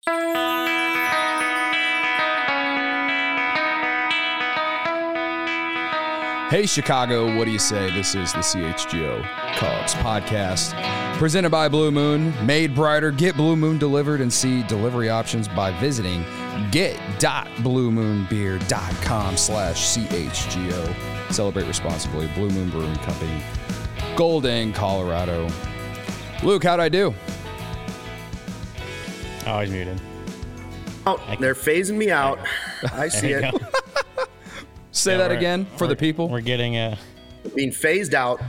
Hey, Chicago, what do you say? This is the CHGO Cubs podcast presented by Blue Moon. Made brighter. Get Blue Moon delivered and see delivery options by visiting get.bluemoonbeer.com/CHGO. Celebrate responsibly. Blue Moon Brewing Company, Golden, Colorado. Luke, how'd I do? Oh, he's muted. Oh, they're phasing me out. I see it. Say that again for the people. We're getting Being phased out.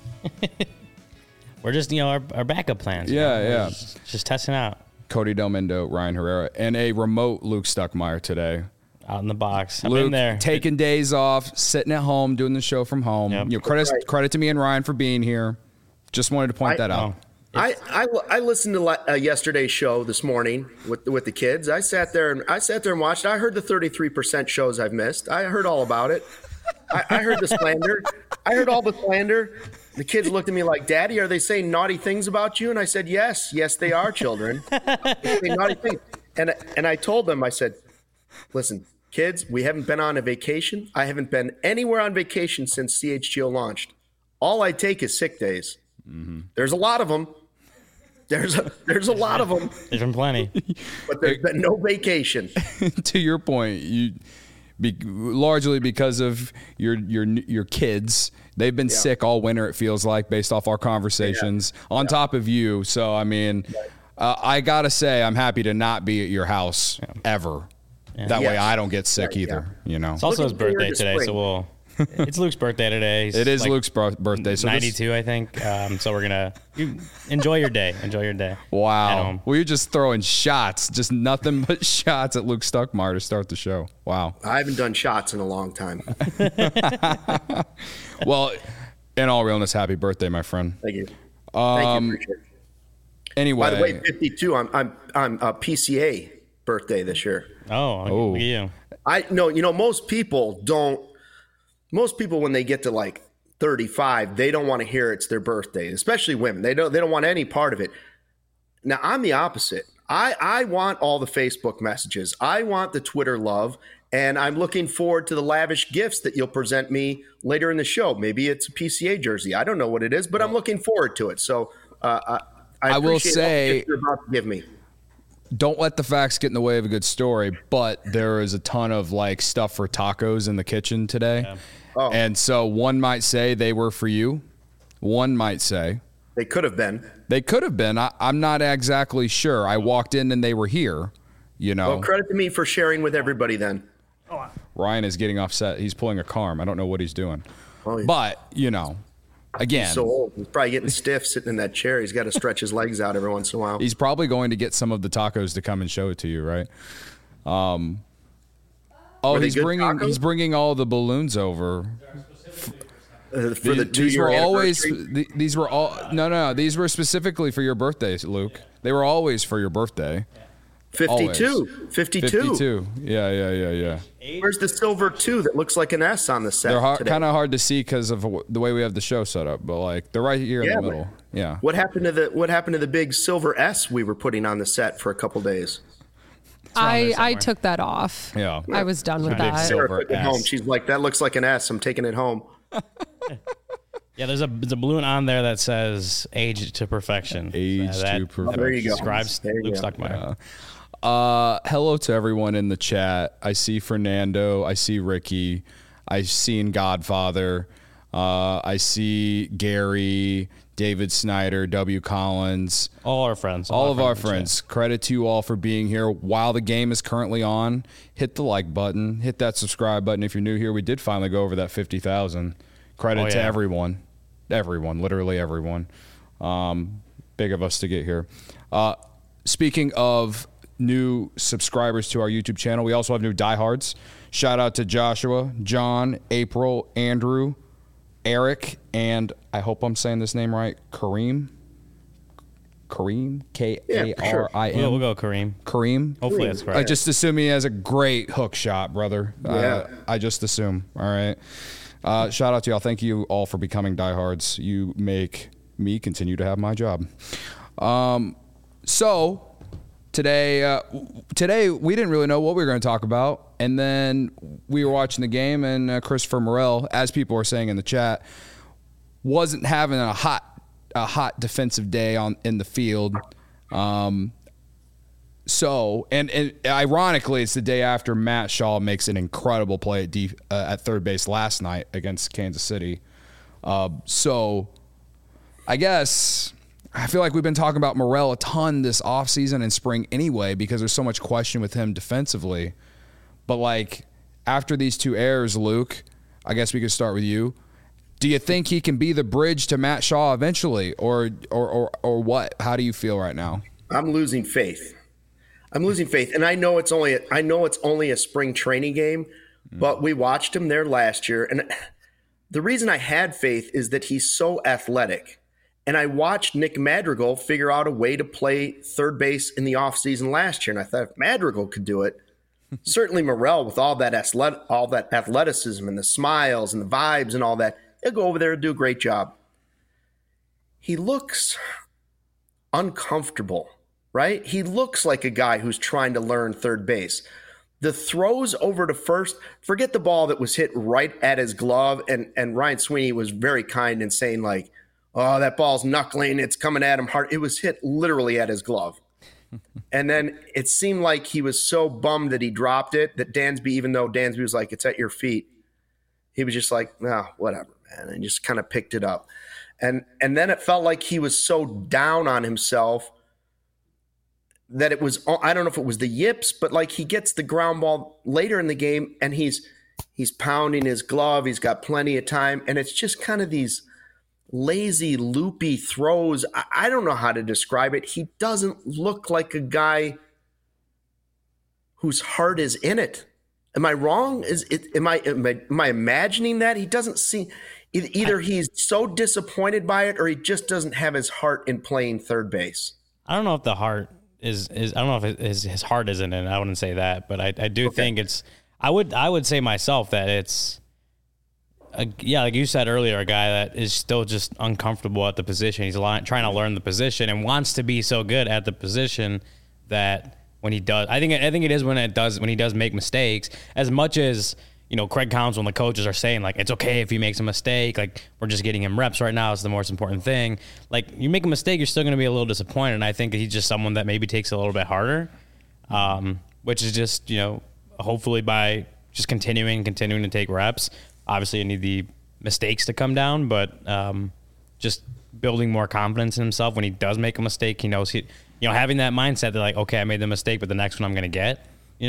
we're just, our backup plans. Yeah. Just testing out. Cody Delmendo, Ryan Herrera, and a remote Luke Stuckmeyer today. Out in the box. I'm Luke, in there. taking days off, sitting at home, doing the show from home. Yep. Credit to me and Ryan for being here. Just wanted to point that out. I listened to yesterday's show this morning with the kids. I sat there and watched. I heard the 33% shows I've missed. I heard all about it. I heard the slander. I heard all the slander. The kids looked at me like, "Daddy, are they saying naughty things about you?" And I said, "Yes, they are, children. They're saying naughty things." And I told them, I said, "Listen, kids, we haven't been on a vacation. I haven't been anywhere on vacation since CHGO launched. All I take is sick days. Mm-hmm. There's a lot of them. There's a lot of them. There's been plenty. But there's been no vacation." To your point, largely because of your kids, they've been sick all winter, it feels like, based off our conversations, on top of you. So, I mean, I got to say, I'm happy to not be at your house ever. Yeah. That way I don't get sick either, It's also his birthday today, so it's Luke's birthday today. It is Luke's birthday. So 92, I think. So we're going to enjoy your day. Enjoy your day. Wow. Well, you're just throwing shots, just nothing but shots at Luke Stuckmeyer to start the show. Wow. I haven't done shots in a long time. Well, in all realness, happy birthday, my friend. Thank you. Thank you. Anyway. By the way, 52, I'm a PCA birthday this year. Oh, look at you. Most people, when they get to like 35, they don't want to hear it's their birthday, especially women. They don't want any part of it. Now, I'm the opposite. I want all the Facebook messages. I want the Twitter love, and I'm looking forward to the lavish gifts that you'll present me later in the show. Maybe it's a PCA jersey. I don't know what it is, but I'm looking forward to it. So I will say, you're about to give me. Don't let the facts get in the way of a good story, but there is a ton of like stuff for tacos in the kitchen today. Yeah. Oh. And so one might say they were for you. One might say they could have been. I'm not exactly sure. I walked in and they were here, Well, credit to me for sharing with everybody then. Ryan is getting offset. He's pulling a Carm. I don't know what he's doing. Oh, but, again. He's so old. He's probably getting stiff sitting in that chair. He's got to stretch his legs out every once in a while. He's probably going to get some of the tacos to come and show it to you, right? He's bringing all the balloons over. For the 2-year anniversary? These were specifically for your birthday, Luke. They were always for your birthday. 52. 52. Yeah. Where's the silver 2 that looks like an S on the set? They're kind of hard to see because of the way we have the show set up, but like they're right here in the middle. Yeah. What happened to the big silver S we were putting on the set for a couple days? I took that off. Yeah. I was done with that. Silver S. Home. She's like, that looks like an S. I'm taking it home. Yeah, there's a balloon on there that says "Age to Perfection." Age to perfection. There you go. Describes Luke Stuckmeyer. Hello to everyone in the chat. I see Fernando. I see Ricky. I see in Godfather. I see Gary, David Snyder, W. Collins. All our friends. All of our friends. Credit to you all for being here. While the game is currently on, hit the like button. Hit that subscribe button. If you're new here, we did finally go over that 50,000. Credit to everyone. Everyone. Literally everyone. Big of us to get here. Speaking of new subscribers to our YouTube channel, we also have new diehards. Shout out to Joshua, John, April, Andrew, Eric, and I hope I'm saying this name right, Kareem, Kareem, K-A-R-I-M. We'll go Kareem. Kareem? Hopefully that's correct. I just assume he has a great hook shot, brother. Yeah. I just assume. All right. Shout out to y'all. Thank you all for becoming diehards. You make me continue to have my job. So today we didn't really know what we were going to talk about, and then we were watching the game, and Christopher Morel, as people were saying in the chat, wasn't having a hot defensive day in the field. So ironically, it's the day after Matt Shaw makes an incredible play at third base last night against Kansas City. So I guess I feel like we've been talking about Morel a ton this offseason and spring anyway, because there's so much question with him defensively. But like after these two errors, Luke, I guess we could start with you. Do you think he can be the bridge to Matt Shaw eventually, or what? How do you feel right now? I'm losing faith. And I know it's only a spring training game, but we watched him there last year. And the reason I had faith is that he's so athletic. And I watched Nick Madrigal figure out a way to play third base in the offseason last year. And I thought if Madrigal could do it, certainly Morel with all that athleticism and the smiles and the vibes and all that, he'll go over there and do a great job. He looks uncomfortable. Right? He looks like a guy who's trying to learn third base. The throws over to first, forget the ball that was hit right at his glove. And Ryan Sweeney was very kind in saying like, oh, that ball's knuckling. It's coming at him hard. It was hit literally at his glove. And then it seemed like he was so bummed that he dropped it that Dansby, even though Dansby was like, it's at your feet, he was just like, no, whatever, man. And just kind of picked it up. And then it felt like he was so down on himself that it was, I don't know if it was the yips, but like he gets the ground ball later in the game and he's pounding his glove. He's got plenty of time. And it's just kind of these lazy, loopy throws. I don't know how to describe it. He doesn't look like a guy whose heart is in it. Am I wrong? Am I imagining that? He doesn't seem, either he's so disappointed by it or he just doesn't have his heart in playing third base. I don't know if the heart is I don't know if his heart isn't in it. I wouldn't say that, but I do think it's. I would say myself that it's. Like you said earlier, a guy that is still just uncomfortable at the position. He's trying to learn the position and wants to be so good at the position that when he does, I think it is when he does make mistakes. As much as Craig Counsell and the coaches are saying like it's okay if he makes a mistake. Like we're just getting him reps right now. It's the most important thing. Like you make a mistake, you're still going to be a little disappointed. And I think that he's just someone that maybe takes a little bit harder, which is just hopefully by just continuing to take reps. Obviously, you need the mistakes to come down, but just building more confidence in himself when he does make a mistake. He knows having that mindset that like, okay, I made the mistake, but the next one I'm going to get.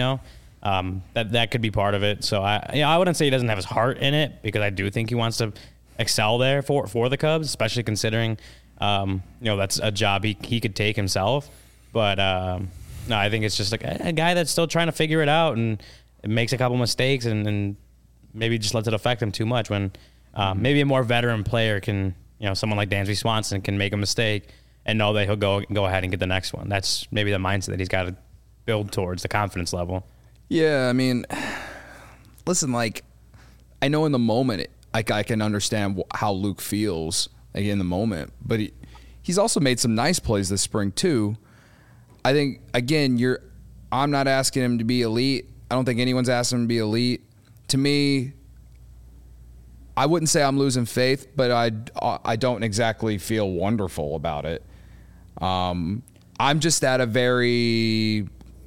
That could be part of it. So I wouldn't say he doesn't have his heart in it because I do think he wants to excel there for the Cubs, especially considering that's a job he could take himself. But no, I think it's just like a guy that's still trying to figure it out and makes a couple mistakes and maybe just lets it affect him too much when maybe a more veteran player can, someone like Dansby Swanson can make a mistake and know that he'll go ahead and get the next one. That's maybe the mindset that he's got to build towards, the confidence level. Yeah, I mean, listen, like, I know in the moment, I can understand how Luke feels in the moment, but he's also made some nice plays this spring too. I think, again, I'm not asking him to be elite. I don't think anyone's asking him to be elite. To me, I wouldn't say I'm losing faith, but I don't exactly feel wonderful about it. I'm just at a very...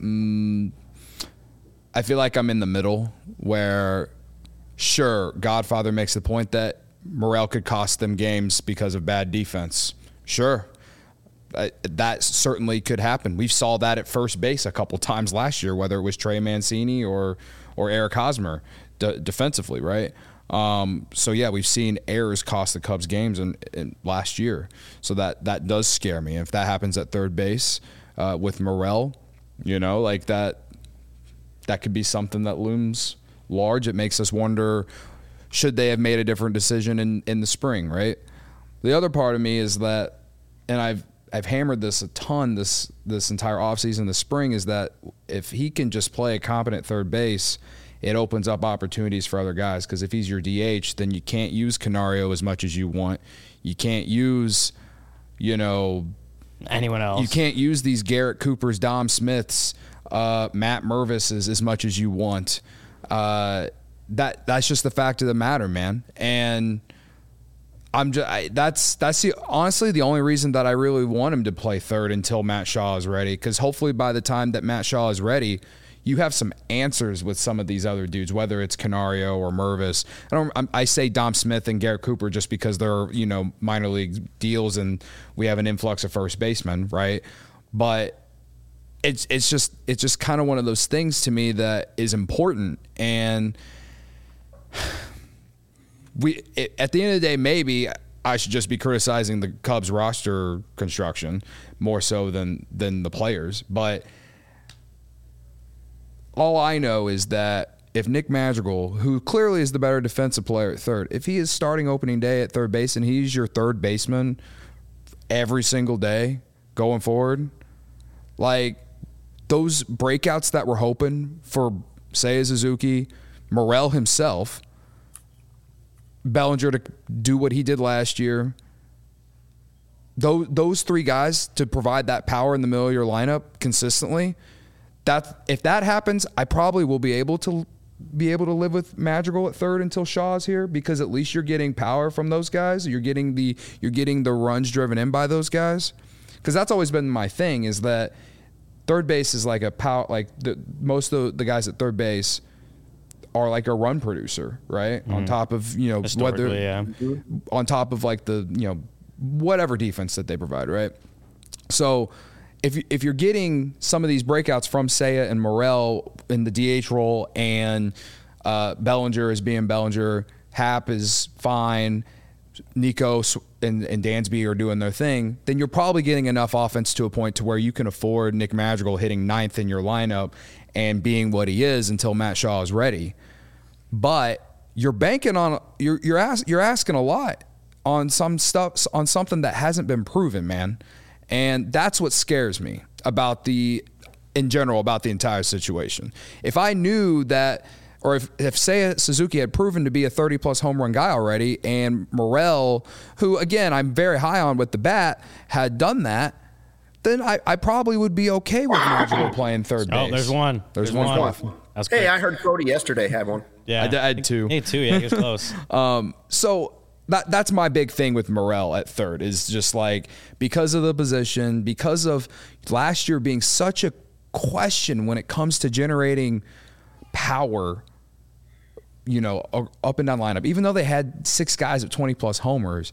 I feel like I'm in the middle where, sure, Godfather makes the point that Morel could cost them games because of bad defense. Sure, that certainly could happen. We saw that at first base a couple times last year, whether it was Trey Mancini or Eric Hosmer defensively, right? So, yeah, we've seen errors cost the Cubs games in last year. So that does scare me. If that happens at third base with Morel, like that could be something that looms large. It makes us wonder, should they have made a different decision in the spring, right? The other part of me is that, and I've hammered this a ton this entire offseason, the spring, is that if he can just play a competent third base, it opens up opportunities for other guys. Because if he's your DH, then you can't use Canario as much as you want. You can't use, anyone else. You can't use these Garrett Coopers, Dom Smiths, Matt Mervises as much as you want. That's just the fact of the matter, man. And that's honestly the only reason that I really want him to play third until Matt Shaw is ready. Because hopefully by the time that Matt Shaw is ready, you have some answers with some of these other dudes, whether it's Canario or Mervis. I say Dom Smith and Garrett Cooper just because they're, minor league deals and we have an influx of first basemen, right? But it's just kind of one of those things to me that is important. And at the end of the day, maybe I should just be criticizing the Cubs roster construction more so than the players. But all I know is that if Nick Madrigal, who clearly is the better defensive player at third, if he is starting opening day at third base and he's your third baseman every single day going forward, like those breakouts that we're hoping for Seiya Suzuki, Morel himself, Bellinger to do what he did last year, those three guys to provide that power in the middle of your lineup consistently, if that happens, I probably will be able to live with Madrigal at third until Shaw's here, because at least you're getting power from those guys. You're getting the runs driven in by those guys. Because that's always been my thing, is that third base is like a power. Like most of the guys at third base are like a run producer, right? Mm-hmm. On top of on top of like the whatever defense that they provide, right? So if you're getting some of these breakouts from Seiya and Morel in the DH role, and Bellinger is being Bellinger, Happ is fine, Nico and Dansby are doing their thing, then you're probably getting enough offense to a point to where you can afford Nick Madrigal hitting ninth in your lineup and being what he is until Matt Shaw is ready. But you're banking on you're asking a lot on some stuff, on something that hasn't been proven, man. And that's what scares me in general about the entire situation. If I knew that, or if Seiya Suzuki had proven to be a 30-plus home run guy already, and Morel, who, again, I'm very high on with the bat, had done that, then I probably would be okay with Madrigal playing third base. Oh, there's one. There's one left. Hey, I heard Cody yesterday had one. Yeah, I had two. Me too, yeah, he was close. So that's my big thing with Morel at third, is just like, because of the position, because of last year being such a question when it comes to generating power, up and down lineup. Even though they had 6 guys at 20-plus homers,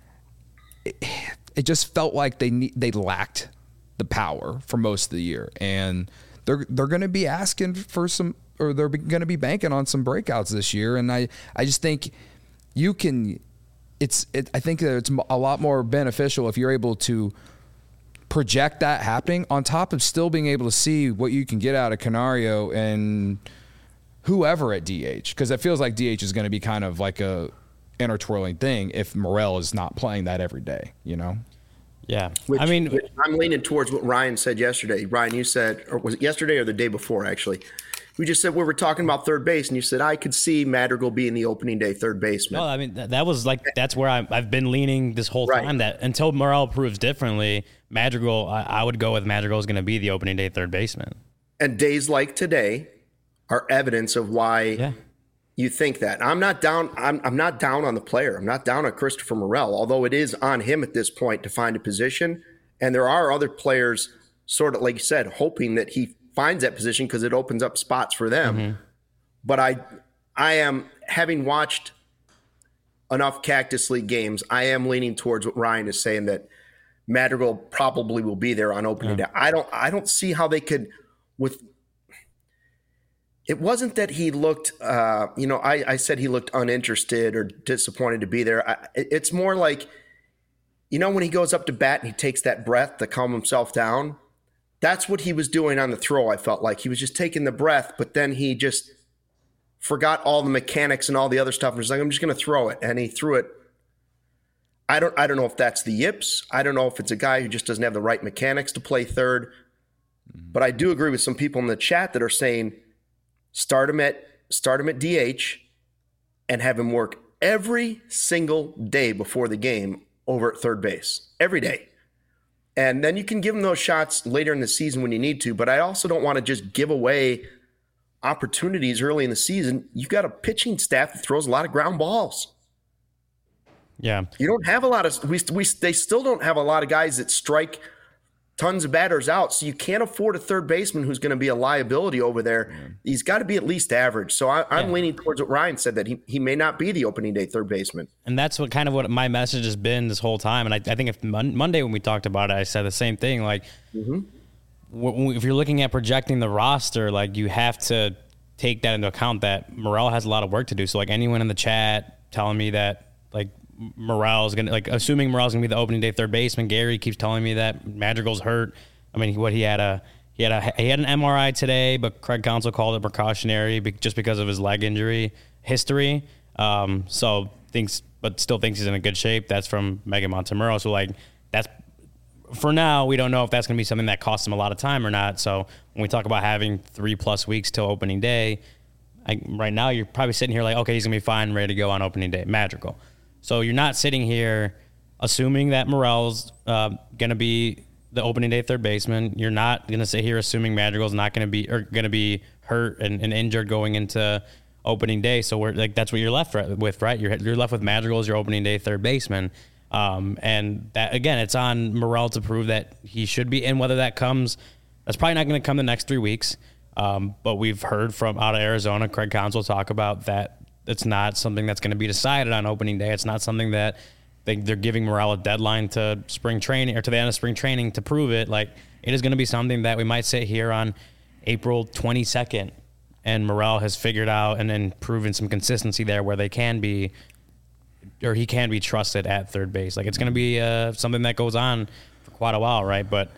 it just felt like they lacked the power for most of the year. And they're going to be asking for some, or they're going to be banking on some breakouts this year. And I just think you can. I think that it's a lot more beneficial if you're able to project that happening, on top of still being able to see what you can get out of Canario and whoever at DH, because it feels like DH is going to be kind of like a intertwirling thing if Morel is not playing that every day, Yeah. Which I'm leaning towards what Ryan said yesterday. Ryan, you said, or was it yesterday or the day before, actually? We just said we were talking about third base, and you said I could see Madrigal being the opening day third baseman. No, I mean, that was like, that's where I've been leaning this whole time, that until Morel proves differently, Madrigal, I would go with Madrigal is going to be the opening day third baseman. And days like today are evidence of why you think that. I'm not down. I'm not down on the player. I'm not down on Christopher Morel, although it is on him at this point to find a position. And there are other players, sort of like you said, hoping that he finds that position because it opens up spots for them. Mm-hmm. But I am, having watched enough Cactus League games, I am leaning towards what Ryan is saying, that Madrigal probably will be there on opening day. I don't see how they could, with. It wasn't that he looked, I said he looked uninterested or disappointed to be there. It's more like, when he goes up to bat and he takes that breath to calm himself down. That's what he was doing on the throw. I felt like he was just taking the breath, but then he just forgot all the mechanics and all the other stuff. And was like, I'm just going to throw it. And he threw it. I don't know if that's the yips. I don't know if it's a guy who just doesn't have the right mechanics to play third. But I do agree with some people in the chat that are saying start him at DH and have him work every single day before the game over at third base. Every day. And then you can give him those shots later in the season when you need to. But I also don't want to just give away opportunities early in the season. You've got a pitching staff that throws a lot of ground balls. Yeah. You don't have a lot of they still don't have a lot of guys that strike tons of batters out. So you can't afford a third baseman who's going to be a liability over there. Yeah. He's got to be at least average. So I'm leaning towards what Ryan said, that he may not be the opening day third baseman. And that's what my message has been this whole time. And I think if Monday when we talked about it, I said the same thing. Like, if you're looking at projecting the roster, like, you have to take that into account that Morel has a lot of work to do. So, like, anyone in the chat telling me that, like, Morel's gonna, like, assuming Morel's gonna be the opening day third baseman. Gary keeps telling me that Madrigal's hurt. I mean, he had an MRI today, but Craig Counsell called it precautionary just because of his leg injury history. Still thinks he's in a good shape. That's from Megan Montemurro. So, like, that's, for now, we don't know if that's going to be something that costs him a lot of time or not. So when we talk about having 3+ weeks till opening day, right now you're probably sitting here like, okay, he's going to be fine, ready to go on opening day. Madrigal. So you're not sitting here assuming that Morel's going to be the opening day third baseman. You're not going to sit here assuming Madrigal's not going to be hurt and injured going into opening day. So we're like, that's what you're left with, right? You're left with Madrigal as your opening day third baseman. And that, again, it's on Morel to prove that he should be. And whether that comes, that's probably not going to come the next 3 weeks. But we've heard from out of Arizona, Craig Counsell talk about that. It's not something that's going to be decided on opening day. It's not something that they're giving Morel a deadline to spring training or to the end of spring training to prove it. Like, it is going to be something that we might sit here on April 22nd and Morel has figured out and then proven some consistency there where he can be trusted at third base. Like, it's going to be something that goes on for quite a while, right? But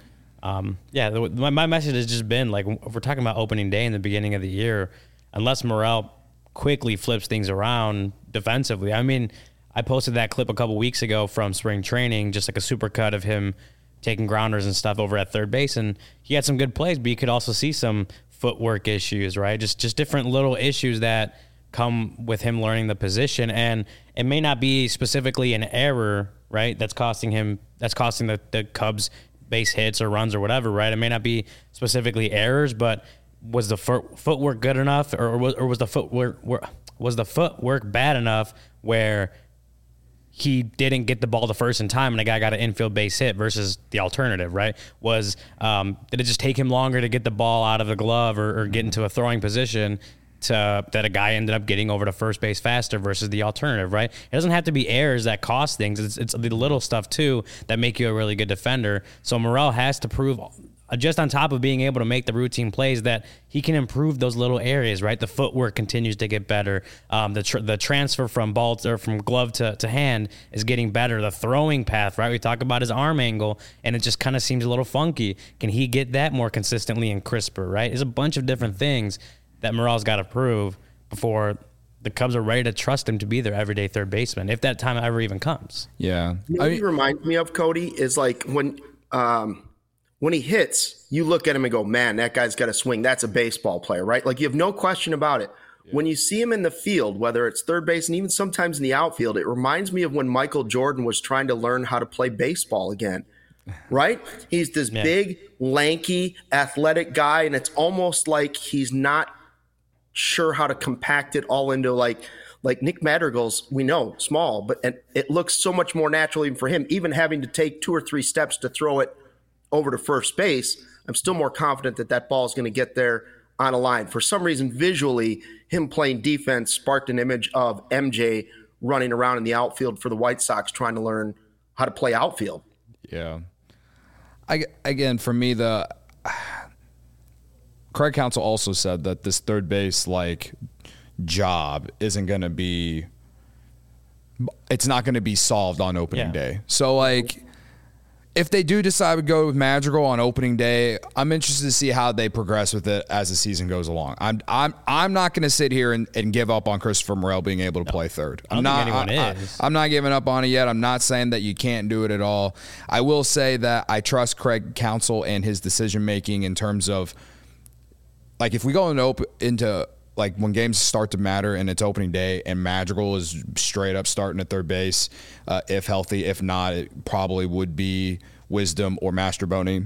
my message has just been, like, if we're talking about opening day in the beginning of the year, unless Morel quickly flips things around defensively. I mean, I posted that clip a couple weeks ago from spring training, just like a super cut of him taking grounders and stuff over at third base, and he had some good plays, but you could also see some footwork issues, right? Just different little issues that come with him learning the position, and it may not be specifically an error, right? That's costing the Cubs base hits or runs or whatever, right? It may not be specifically errors, but was the footwork good enough, or was the footwork bad enough where he didn't get the ball the first in time and a guy got an infield base hit versus the alternative, right? Did it just take him longer to get the ball out of the glove or get into a throwing position that a guy ended up getting over to first base faster versus the alternative, right? It doesn't have to be errors that cost things. It's the little stuff too that make you a really good defender. So Morel has to prove, just on top of being able to make the routine plays, that he can improve those little areas, right? The footwork continues to get better. The transfer from ball or from glove to hand is getting better. The throwing path, right? We talk about his arm angle, and it just kind of seems a little funky. Can he get that more consistently and crisper, right? There's a bunch of different things that Morel's got to prove before the Cubs are ready to trust him to be their everyday third baseman, if that time ever even comes. Yeah. You know what he reminds me of, Cody, is like when he hits, you look at him and go, man, that guy's got a swing. That's a baseball player, right? Like, you have no question about it. Yeah. When you see him in the field, whether it's third base and even sometimes in the outfield, it reminds me of when Michael Jordan was trying to learn how to play baseball again, right? He's this big, lanky, athletic guy, and it's almost like he's not sure how to compact it all into like Nick Madrigal's, we know, small, but it looks so much more natural even for him, even having to take 2 or 3 steps to throw it over to first base. I'm still more confident that ball is going to get there on a line. For some reason, visually, him playing defense sparked an image of MJ running around in the outfield for the White Sox trying to learn how to play outfield. Yeah. Again, for me, Craig Counsell also said that this third base job isn't going to be, it's not going to be solved on opening day. So if they do decide to go with Madrigal on opening day, I'm interested to see how they progress with it as the season goes along. I'm not going to sit here and give up on Christopher Morel being able to play third. I'm not giving up on it yet. I'm not saying that you can't do it at all. I will say that I trust Craig Counsell and his decision making in terms of, like, if we go into like when games start to matter and it's opening day and Madrigal is straight up starting at third base, if healthy, if not, it probably would be Wisdom, or Mastrobuoni,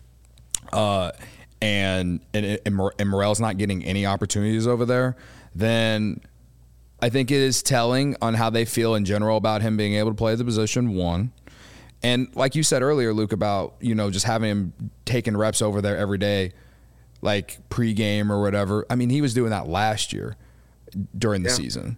and Morel's not getting any opportunities over there, then I think it is telling on how they feel in general about him being able to play the position, one. And like you said earlier, Luke, about, just having him taking reps over there every day, like pregame or whatever. I mean, he was doing that last year during the season,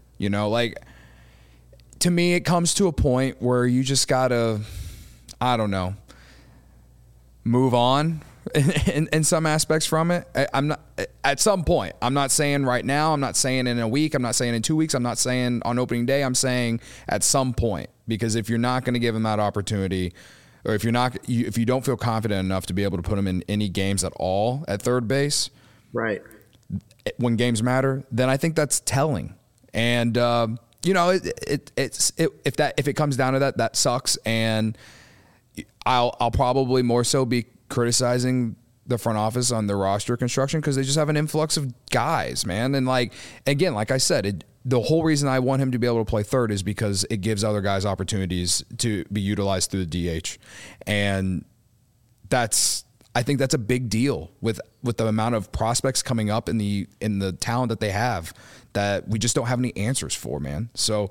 to me, it comes to a point where you just gotta, I don't know, move on in some aspects from it. I'm not at some point. I'm not saying right now. I'm not saying in a week. I'm not saying in 2 weeks. I'm not saying on opening day. I'm saying at some point, because if you're not going to give him that opportunity, or if you don't feel confident enough to be able to put him in any games at all at third base, right, when games matter, then I think that's telling. And if it comes down to that, that sucks. And I'll probably more so be criticizing the front office on the roster construction, because they just have an influx of guys, man. And again, like I said, the whole reason I want him to be able to play third is because it gives other guys opportunities to be utilized through the DH. And I think that's a big deal with the amount of prospects coming up in the talent that they have, that we just don't have any answers for, man. So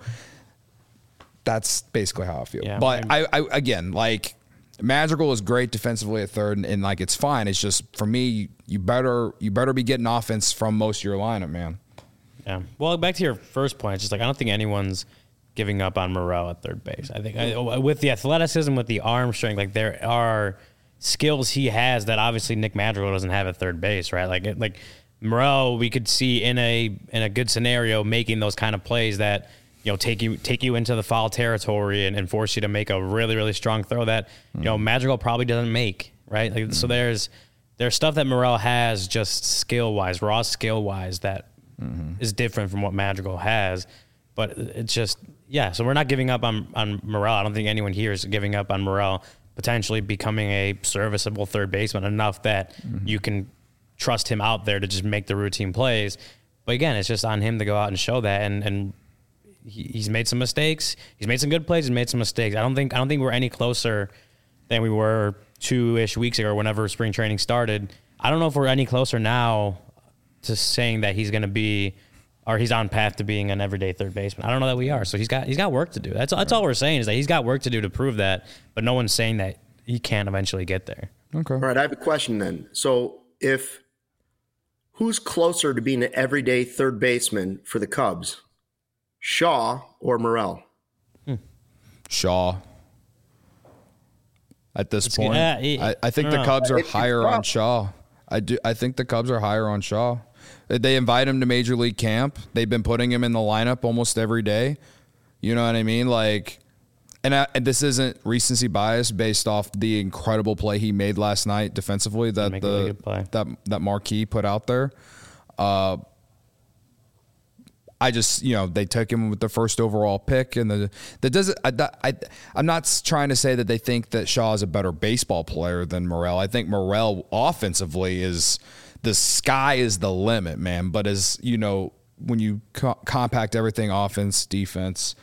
that's basically how I feel. Yeah, but I again, Madrigal is great defensively at third, and it's fine. It's just, for me, you better be getting offense from most of your lineup, man. Yeah. Well, back to your first point, it's just I don't think anyone's giving up on Morel at third base. I think with the athleticism, with the arm strength, there are skills he has that obviously Nick Madrigal doesn't have at third base, right? Like Morel, we could see in a good scenario making those kind of plays that take you into the foul territory and force you to make a really, really strong throw that Madrigal probably doesn't make, right? So there's stuff that Morel has, just skill wise, raw skill wise, that is different from what Madrigal has. But it's just so we're not giving up on Morel. I don't think anyone here is giving up on Morel potentially becoming a serviceable third baseman enough that you can trust him out there to just make the routine plays. But again, it's just on him to go out and show that. And he's made some mistakes. He's made some good plays. He's made some mistakes. I don't think we're any closer than we were 2-ish weeks ago, or whenever spring training started. I don't know if we're any closer now to saying that he's going to be, or he's on path to being an everyday third baseman. I don't know that we are. So he's got work to do. That's all we're saying, is that he's got work to do to prove that, but no one's saying that he can't eventually get there. Okay. All right, I have a question then. So who's closer to being an everyday third baseman for the Cubs? Shaw or Morel? Shaw. At this point, I think the Cubs are higher on Shaw. I think the Cubs are higher on Shaw. They invite him to Major League Camp. They've been putting him in the lineup almost every day. You know what I mean? And this isn't recency bias based off the incredible play he made last night defensively that Marquis put out there. I just, they took him with the first overall pick, and I'm not trying to say that they think that Shaw is a better baseball player than Morel. I think Morel offensively the sky is the limit, man. But as when you compact everything, offense, defense,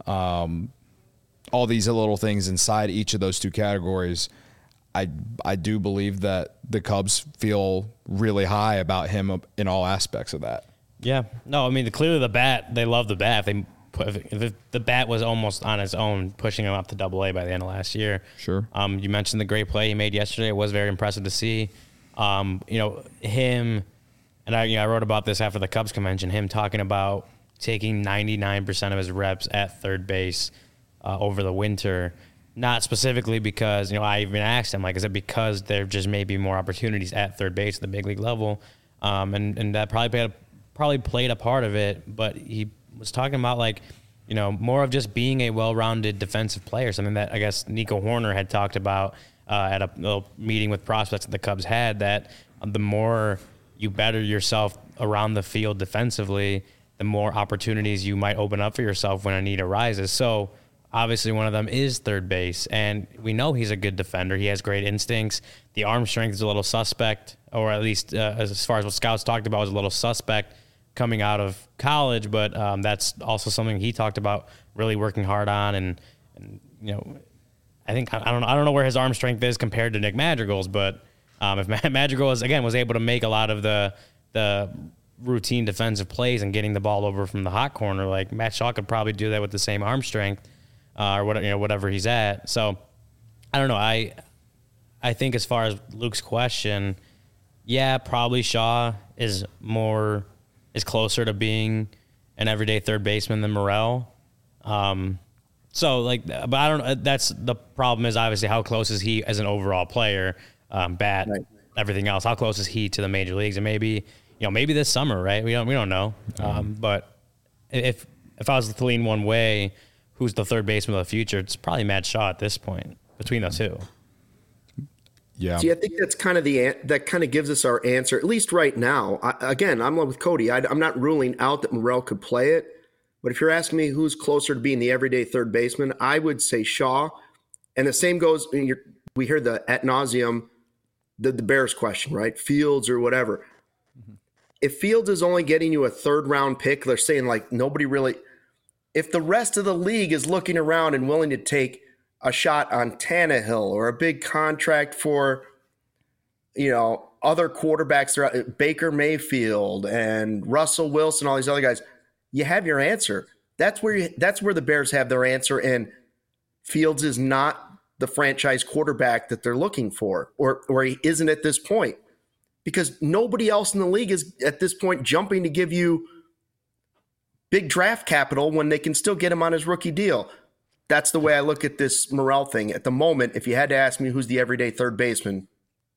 all these little things inside each of those two categories, I do believe that the Cubs feel really high about him in all aspects of that. Yeah. No, I mean, clearly the bat, they love the bat. If the bat was almost on its own, pushing him up to AA by the end of last year. Sure. You mentioned the great play he made yesterday. It was very impressive to see. Him, and I wrote about this after the Cubs convention, him talking about taking 99% of his reps at third base over the winter. Not specifically because, I even asked him, is it because there just may be more opportunities at third base at the big league level? And that probably played a part of it, but he was talking about more of just being a well-rounded defensive player, something that I guess Nico Horner had talked about at a little meeting with prospects that the Cubs had, that the more you better yourself around the field defensively, the more opportunities you might open up for yourself when a need arises. So obviously one of them is third base, and we know he's a good defender. He has great instincts. The arm strength is a little suspect, or at least as far as what scouts talked about, was a little suspect coming out of college, but that's also something he talked about really working hard on. And I think I don't know where his arm strength is compared to Nick Madrigal's, but if Madrigal was able to make a lot of the routine defensive plays and getting the ball over from the hot corner, like Matt Shaw could probably do that with the same arm strength or whatever he's at. So I don't know. I think as far as Luke's question, yeah, probably Shaw is closer to being an everyday third baseman than Morel. So but I don't know. That's the problem is obviously how close is he as an overall player, bat, right. Everything else. How close is he to the major leagues? And maybe this summer, right? We don't know. But if I was to lean one way, who's the third baseman of the future? It's probably Matt Shaw at this point between the two. Yeah. See, I think that's kind of that kind of gives us our answer, at least right now. I'm with Cody. I'm not ruling out that Morel could play it, but if you're asking me who's closer to being the everyday third baseman, I would say Shaw. And the same goes. We hear the ad nauseum, the Bears question, right? Fields or whatever. Mm-hmm. If Fields is only getting you a third round pick, they're saying like nobody really. If the rest of the league is looking around and willing to take a shot on Tannehill or a big contract for, other quarterbacks, Baker Mayfield and Russell Wilson, all these other guys, you have your answer. That's where the Bears have their answer. And Fields is not the franchise quarterback that they're looking for, or he isn't at this point, because nobody else in the league is at this point jumping to give you big draft capital when they can still get him on his rookie deal. That's the way I look at this Morel thing. At the moment, if you had to ask me who's the everyday third baseman,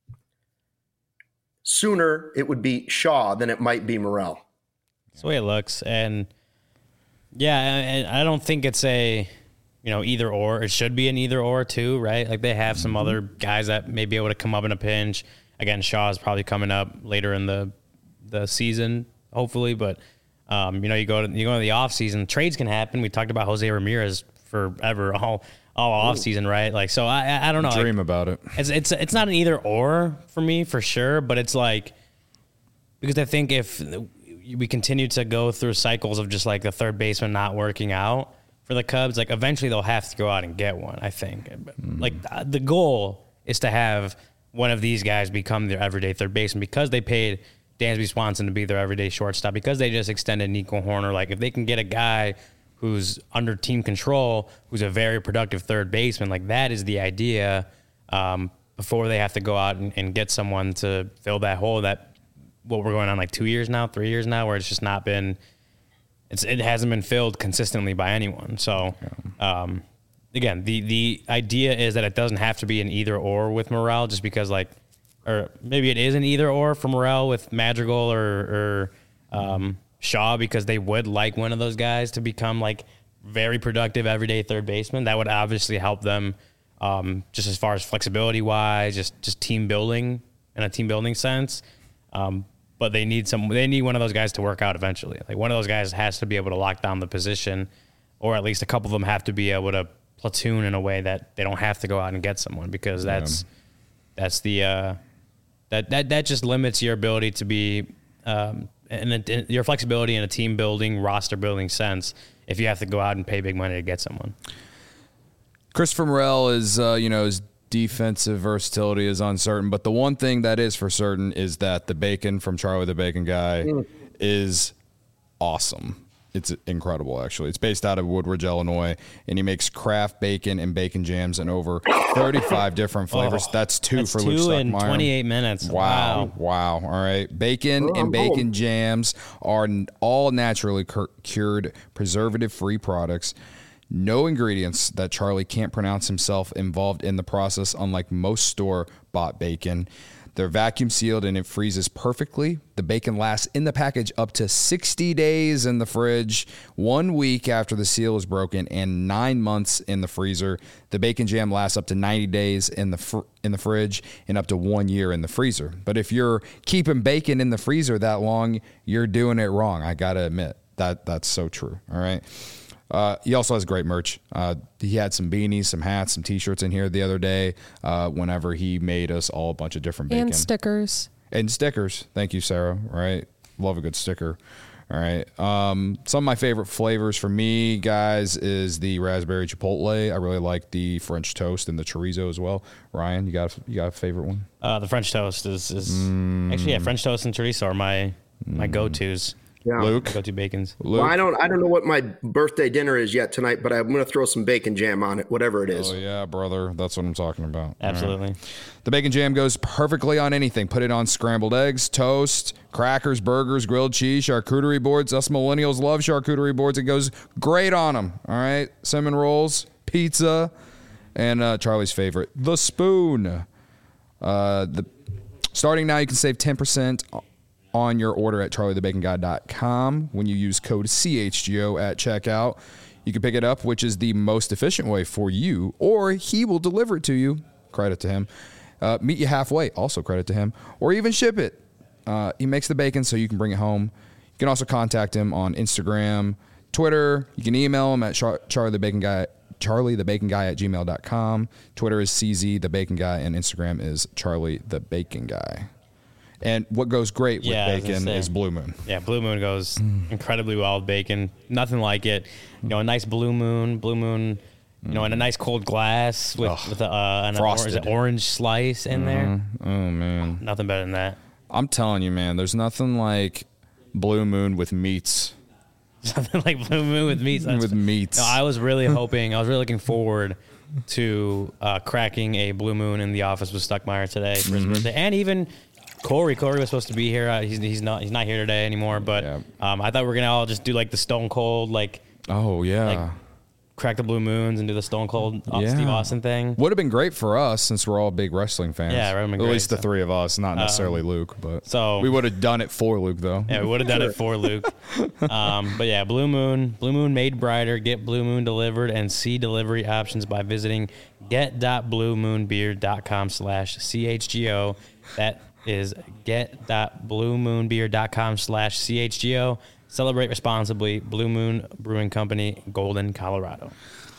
sooner it would be Shaw than it might be Morel. That's the way it looks. And, yeah, and I don't think it's a, either or. It should be an either or, too, right? Like they have some other guys that may be able to come up in a pinch. Again, Shaw is probably coming up later in the season, hopefully. But, you go to the offseason. Trades can happen. We talked about Jose Ramirez forever, all off season, right? Like, so I don't know. Dream about it. It's not an either or for me for sure, but it's like, because I think if we continue to go through cycles of just like the third baseman not working out for the Cubs, like eventually they'll have to go out and get one. I think like the goal is to have one of these guys become their everyday third baseman, because they paid Dansby Swanson to be their everyday shortstop, because they just extended Nico Horner. Like if they can get a guy who's under team control, who's a very productive third baseman, like that is the idea, before they have to go out and get someone to fill that hole that we're going on like 3 years now, where it's just not been, it hasn't been filled consistently by anyone. So, again, the idea is that it doesn't have to be an either or with Morel, just because or maybe it is an either or for Morel with Madrigal or Shaw, because they would like one of those guys to become like very productive everyday third baseman. That would obviously help them, just as far as flexibility wise, just team building in a team building sense. But they need one of those guys to work out eventually. Like one of those guys has to be able to lock down the position, or at least a couple of them have to be able to platoon in a way that they don't have to go out and get someone, because that just limits your ability to be, and your flexibility in a team building, roster building sense, if you have to go out and pay big money to get someone. Christopher Morel is, his defensive versatility is uncertain, but the one thing that is for certain is that the bacon from Charlie the Bacon Guy is awesome. It's incredible, actually. It's based out of Woodridge, Illinois, and he makes craft bacon and bacon jams in over 35 different flavors. That's two for Luke Stuckmeyer. 2 in 28 minutes. Wow. All right. Bacon and bacon jams are all naturally cured, preservative-free products. No ingredients that Charlie can't pronounce himself involved in the process, unlike most store-bought bacon. They're vacuum sealed and it freezes perfectly. The bacon lasts in the package up to 60 days in the fridge, 1 week after the seal is broken, and 9 months in the freezer. The bacon jam lasts up to 90 days in the fridge and up to 1 year in the freezer. But if you're keeping bacon in the freezer that long, you're doing it wrong. I got to admit that's so true. All right. He also has great merch. He had some beanies, some hats, some T-shirts in here the other day whenever he made us all a bunch of different bacon. And stickers. And stickers. Thank you, Sarah. Right? Love a good sticker. All right. Some of my favorite flavors for me, guys, is the raspberry chipotle. I really like the French toast and the chorizo as well. Ryan, you got a favorite one? The French toast is actually, yeah, French toast and chorizo are my go-tos. Yeah. Luke? Go-to bacons. Well, I don't know what my birthday dinner is yet tonight, but I'm going to throw some bacon jam on it, whatever it is. Oh, yeah, brother. That's what I'm talking about. Absolutely. Right. The bacon jam goes perfectly on anything. Put it on scrambled eggs, toast, crackers, burgers, grilled cheese, charcuterie boards. Us millennials love charcuterie boards. It goes great on them. All right. Cinnamon rolls, pizza, and Charlie's favorite, the spoon. Starting now, you can save 10% on your order at charliethebaconguy.com when you use code CHGO at checkout. You can pick it up, which is the most efficient way for you, or he will deliver it to you. Credit to him. Meet you halfway. Also credit to him. Or even ship it. He makes the bacon so you can bring it home. You can also contact him on Instagram, Twitter. You can email him at charliethebaconguy at gmail.com. Twitter is CZTheBaconGuy, and Instagram is CharlieTheBaconGuy. And what goes great with bacon is Blue Moon. Yeah, Blue Moon goes incredibly well with bacon. Nothing like it. You know, a nice Blue Moon, you know, in a nice cold glass with an orange slice in there. Oh, man. Nothing better than that. I'm telling you, man, there's nothing like Blue Moon with meats. Something like Blue Moon with meats. With meats. No, I was really looking forward to cracking a Blue Moon in the office with Stuckmeyer today for his birthday. And even Corey was supposed to be here. He's not here today anymore. But I thought we were gonna all just do like the Stone Cold, like crack the Blue Moons and do the Stone Cold Steve Austin thing. Would have been great for us since we're all big wrestling fans. Yeah, at least the three of us, not necessarily Luke. But so we would have done it for Luke, though. Yeah, we would have done it for Luke. But yeah, Blue Moon made brighter. Get Blue Moon delivered and see delivery options by visiting get.bluemoonbeer.com/CHGO. That is get.bluemoonbeer.com/CHGO. Celebrate responsibly. Blue Moon Brewing Company, Golden, Colorado.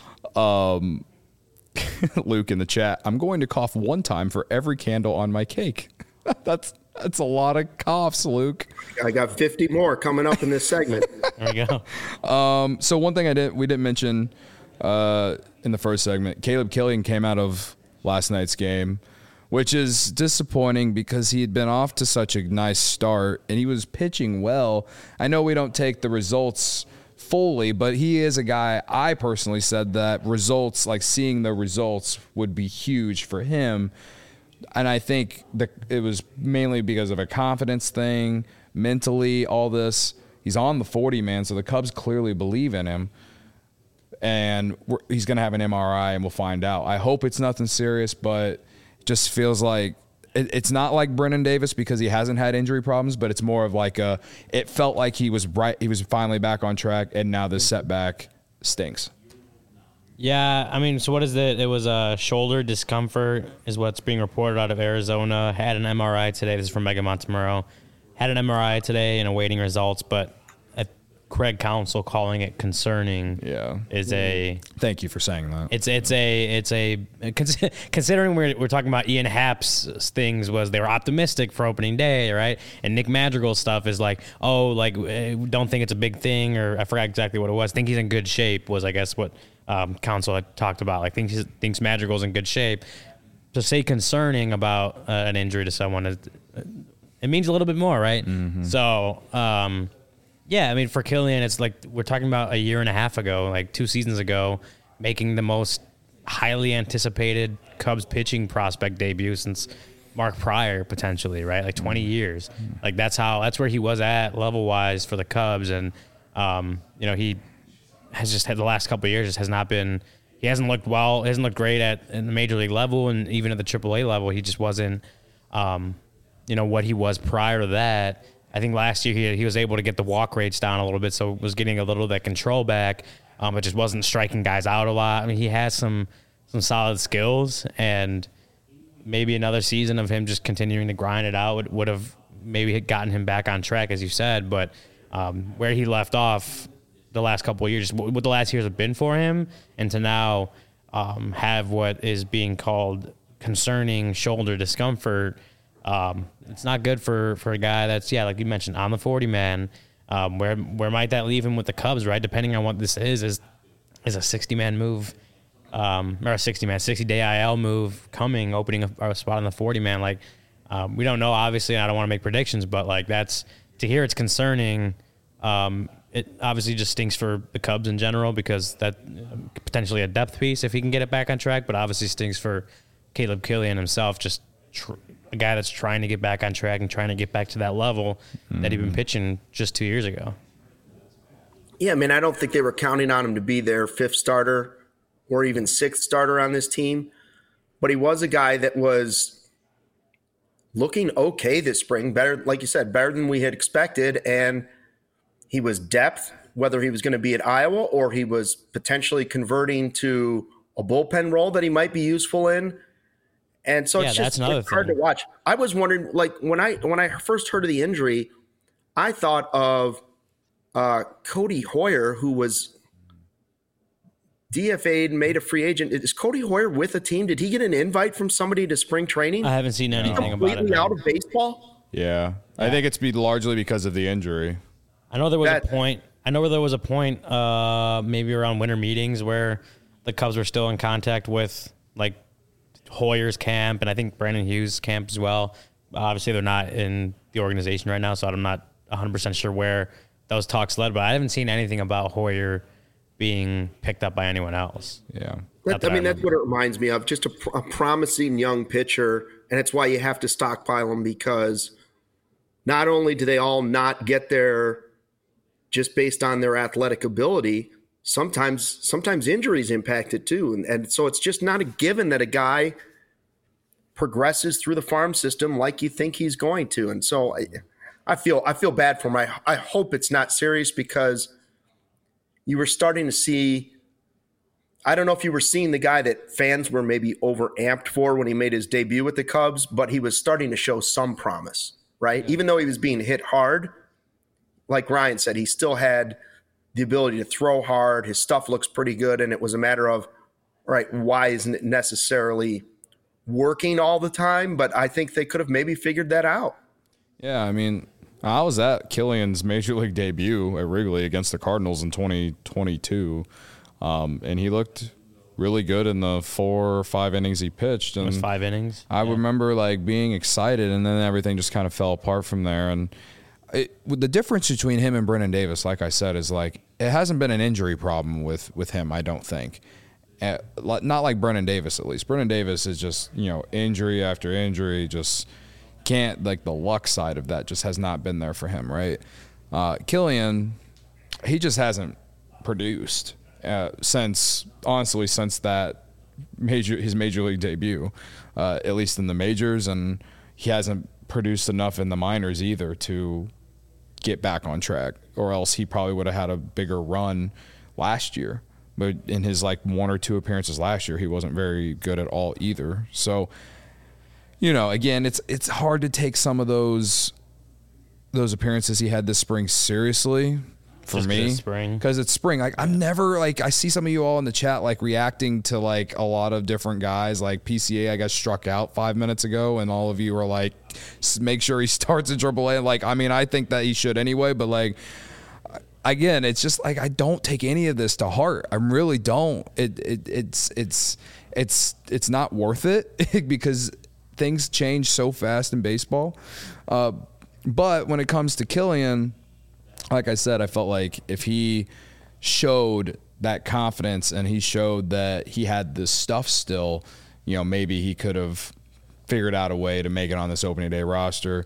Luke in the chat. I'm going to cough one time for every candle on my cake. That's a lot of coughs, Luke. I got 50 more coming up in this segment. There we go. So one thing we didn't mention in the first segment, Caleb Killian came out of last night's game, which is disappointing because he had been off to such a nice start and he was pitching well. I know we don't take the results fully, but he is a guy, I personally said that results, like seeing the results would be huge for him. And I think that it was mainly because of a confidence thing, mentally, all this. He's on the 40, man, so the Cubs clearly believe in him. And he's going to have an MRI and we'll find out. I hope it's nothing serious, but just feels like it's not like Brennan Davis because he hasn't had injury problems, but it's more of like it felt like he was finally back on track, and now this setback stinks. Yeah, I mean, so what is it? It was a shoulder discomfort is what's being reported out of Arizona. Had an MRI today. This is from Mega Montemurro. Had an MRI today and awaiting results, but Craig Counsell calling it concerning is a... Thank you for saying that. It's a considering we're talking about Ian Happ's things was they were optimistic for opening day, right? And Nick Madrigal's stuff is like, don't think it's a big thing, or I forgot exactly what it was. Think he's in good shape was, I guess, what Counsell had talked about. Like, thinks Madrigal's in good shape. To say concerning about an injury to someone, it means a little bit more, right? Mm-hmm. So... yeah, I mean, for Killian, it's like we're talking about a year and a half ago, like 2 seasons ago, making the most highly anticipated Cubs pitching prospect debut since Mark Pryor, potentially, right? Like 20 years. Like that's where he was at level-wise for the Cubs. And, he has just had the last couple of years, just has not been, he hasn't looked well, hasn't looked great in the major league level, and even at the AAA level, he just wasn't, what he was prior to that. I think last year he was able to get the walk rates down a little bit, so was getting a little of that control back, but just wasn't striking guys out a lot. I mean, he has some solid skills, and maybe another season of him just continuing to grind it out would have maybe gotten him back on track, as you said. But where he left off the last couple of years, what the last years have been for him, and to now have what is being called concerning shoulder discomfort. It's not good for a guy that's, like you mentioned, on the 40 man. Where might that leave him with the Cubs, right? Depending on what this is a 60-man move, or a 60-day IL move coming, opening a spot on the 40-man. Like, we don't know, obviously, and I don't want to make predictions, but like to hear it's concerning. It obviously just stinks for the Cubs in general because that potentially a depth piece if he can get it back on track, but obviously stinks for Caleb Killian himself, just a guy that's trying to get back on track and trying to get back to that level that he'd been pitching just 2 years ago. Yeah, I mean, I don't think they were counting on him to be their fifth starter or even sixth starter on this team, but he was a guy that was looking okay this spring, better, like you said, better than we had expected, and he was depth, whether he was going to be at Iowa or he was potentially converting to a bullpen role that he might be useful in. And so it's just hard to watch. I was wondering, like, when I first heard of the injury, I thought of Cody Hoyer, who was DFA'd, made a free agent. Is Cody Hoyer with a team? Did he get an invite from somebody to spring training? I haven't seen anything about it. Completely out of baseball? Yeah. I think it's largely because of the injury. I know there was a point. Maybe around winter meetings where the Cubs were still in contact with like Hoyer's camp and I think Brandon Hughes' camp as well. Obviously, they're not in the organization right now, so I'm not 100% sure where those talks led. But I haven't seen anything about Hoyer being picked up by anyone else. Yeah, that's what it reminds me of. Just a promising young pitcher, and it's why you have to stockpile them because not only do they all not get there just based on their athletic ability, sometimes injuries impact it too. And so it's just not a given that a guy progresses through the farm system like you think he's going to. And so I feel bad for him. I hope it's not serious because you were starting to see, I don't know if you were seeing the guy that fans were maybe overamped for when he made his debut with the Cubs, but he was starting to show some promise, right? Yeah. Even though he was being hit hard, like Ryan said, he still had the ability to throw hard. His stuff looks pretty good. And it was a matter of, all right, why isn't it necessarily working all the time? But I think they could have maybe figured that out. Yeah, I mean, I was at Killian's major league debut at Wrigley against the Cardinals in 2022. And he looked really good in the 4 or 5 innings he pitched. And it was 5 innings. I remember like being excited, and then everything just kind of fell apart from there. And the difference between him and Brennan Davis, like I said, is like it hasn't been an injury problem with him, I don't think. Not like Brennan Davis, at least. Brennan Davis is just, injury after injury, just can't, like the luck side of that just has not been there for him, right? Killian, he just hasn't produced since that his major league debut, at least in the majors, and he hasn't produced enough in the minors either to get back on track, or else he probably would have had a bigger run last year. But in his like 1 or 2 appearances last year, he wasn't very good at all either. So, again, it's hard to take some of those appearances he had this spring seriously for just me, because it's spring. Like I'm never like, I see some of you all in the chat like reacting to like a lot of different guys. Like PCA, I got struck out 5 minutes ago, and all of you are like, make sure he starts in AAA. Like, I mean, I think that he should anyway, but like, again, it's just like I don't take any of this to heart. I really don't. It's not worth it because things change so fast in baseball. But when it comes to Killian, like I said, I felt like if he showed that confidence and he showed that he had this stuff still, maybe he could have figured out a way to make it on this opening day roster.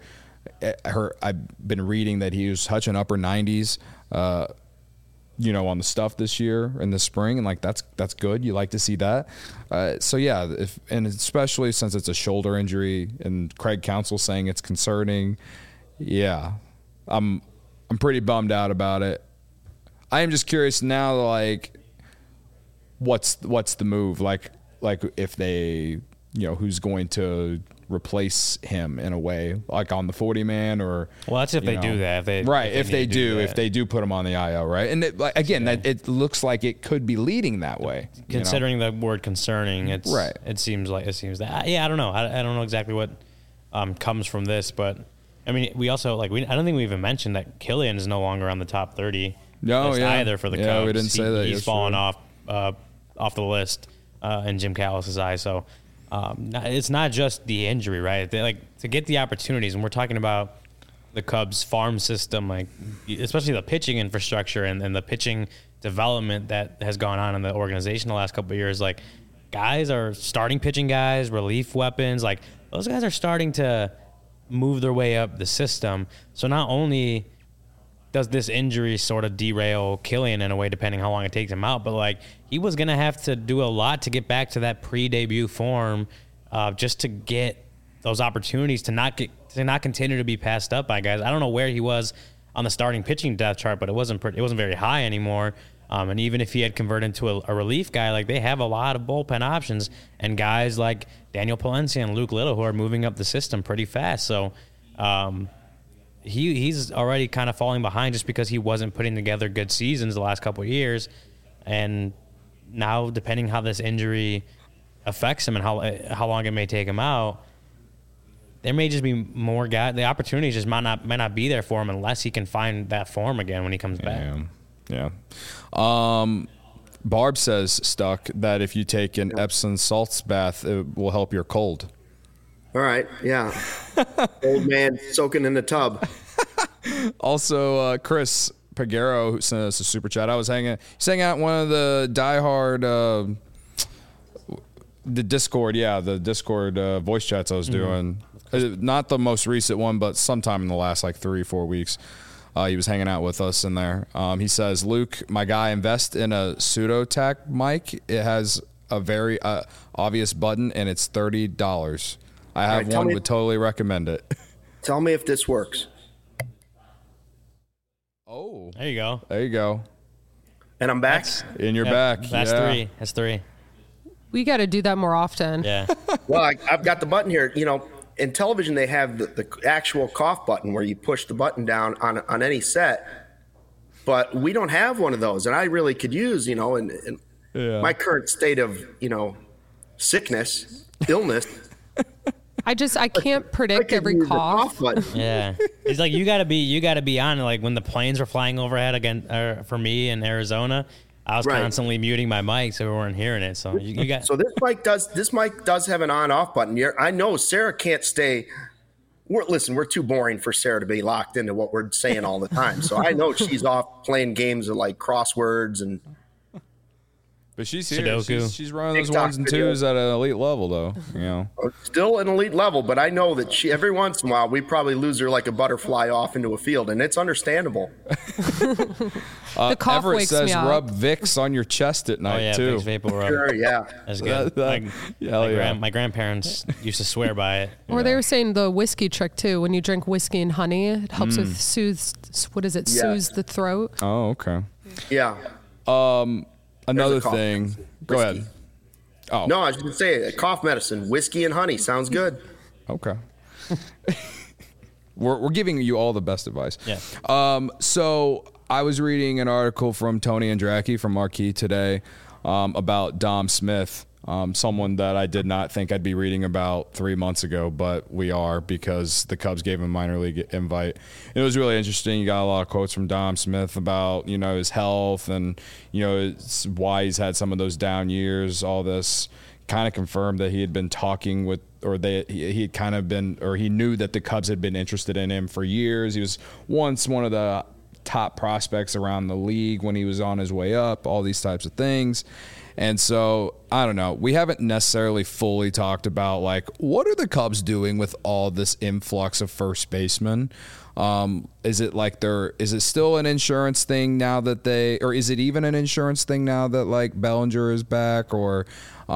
I've been reading that he was touching upper 90s, on the stuff this year in the spring, and like that's good. You like to see that. So yeah, and especially since it's a shoulder injury, and Craig Counsell saying it's concerning. Yeah, I'm pretty bummed out about it. I am just curious now, like, what's the move? Like if they, who's going to replace him in a way, like on the 40-man or. Well, that's if they do that. If they do put him on the IL, right? And it looks like it could be leading that way. Considering the word concerning, it's right. It seems that. Yeah, I don't know. I don't know exactly what comes from this, but I mean, we also I don't think we even mentioned that Killian is no longer on the top 30 No, list either for the Cubs. Yeah, we didn't say that. He's fallen off the list in Jim Callis' eyes. So it's not just the injury, right? To get the opportunities, and we're talking about the Cubs farm system, especially the pitching infrastructure and the pitching development that has gone on in the organization the last couple of years. Guys are starting pitching guys, relief weapons. Those guys are starting to move their way up the system. So not only does this injury sort of derail Killian in a way, depending how long it takes him out, but he was going to have to do a lot to get back to that pre-debut form, just to get those opportunities to not continue to be passed up by guys. I don't know where he was on the starting pitching depth chart, but it wasn't very high anymore. And even if he had converted into a relief guy, they have a lot of bullpen options and guys like Daniel Palencia and Luke Little who are moving up the system pretty fast. So he's already kind of falling behind just because he wasn't putting together good seasons the last couple of years. And now, depending how this injury affects him and how long it may take him out, there may just be more guys. The opportunities just might not be there for him unless he can find that form again when he comes back. Yeah. Barb says, Stuck, that if you take an Epsom salts bath, it will help your cold. All right. Yeah. Old man soaking in the tub. Also, Chris Pagero, who sent us a super chat. He's hanging out in one of the diehard, the Discord voice chats I was doing. Not the most recent one, but sometime in the last 3-4 weeks. He was hanging out with us in there. He says, Luke, my guy, invest in a Pseudo-Tac mic. It has a very obvious button, and it's $30. I have one, would totally recommend it. Tell me if this works. Oh. There you go. There you go. And I'm back? You're back. That's three. That's three. We got to do that more often. Yeah. Well, I've got the button here. In television, they have the actual cough button where you push the button down on any set. But we don't have one of those. And I really could use, in my current state of, sickness, illness. I can't predict every cough. Yeah. It's you gotta be on when the planes were flying overhead again for me in Arizona. I was constantly muting my mic so we weren't hearing it. So you got. So this mic does have an on-off button. I know Sarah can't stay. We're too boring for Sarah to be locked into what we're saying all the time. So I know she's off playing games of crosswords and. But she's here. Sudoku. She's running those ones and twos at an elite level, though. Still an elite level, but I know that every once in a while we probably lose her like a butterfly off into a field, and it's understandable. The cough Everett wakes says me up. rub Vicks on your chest at night too. Vicks Vapor Rub. Sure, yeah. That's good. My grandparents used to swear by it. Or they were saying the whiskey trick too. When you drink whiskey and honey, it helps with soothe the throat. Oh, okay. Yeah. Another thing. Go ahead. Oh. No, I was going to say cough medicine, whiskey and honey. Sounds good. Okay. We're giving you all the best advice. Yeah. So I was reading an article from Tony Andracki from Marquee today about Dom Smith, someone that I did not think I'd be reading about 3 months ago, but we are because the Cubs gave him a minor league invite. It was really interesting. You got a lot of quotes from Dom Smith about, his health and, it's why he's had some of those down years. All this kind of confirmed that he had been talking with, or he had kind of been, or he knew that the Cubs had been interested in him for years. He was once one of the top prospects around the league when he was on his way up, all these types of things. And so, I don't know. We haven't necessarily fully talked about, what are the Cubs doing with all this influx of first basemen? Is it still an insurance thing now that or is it even an insurance thing now that, Bellinger is back? Or,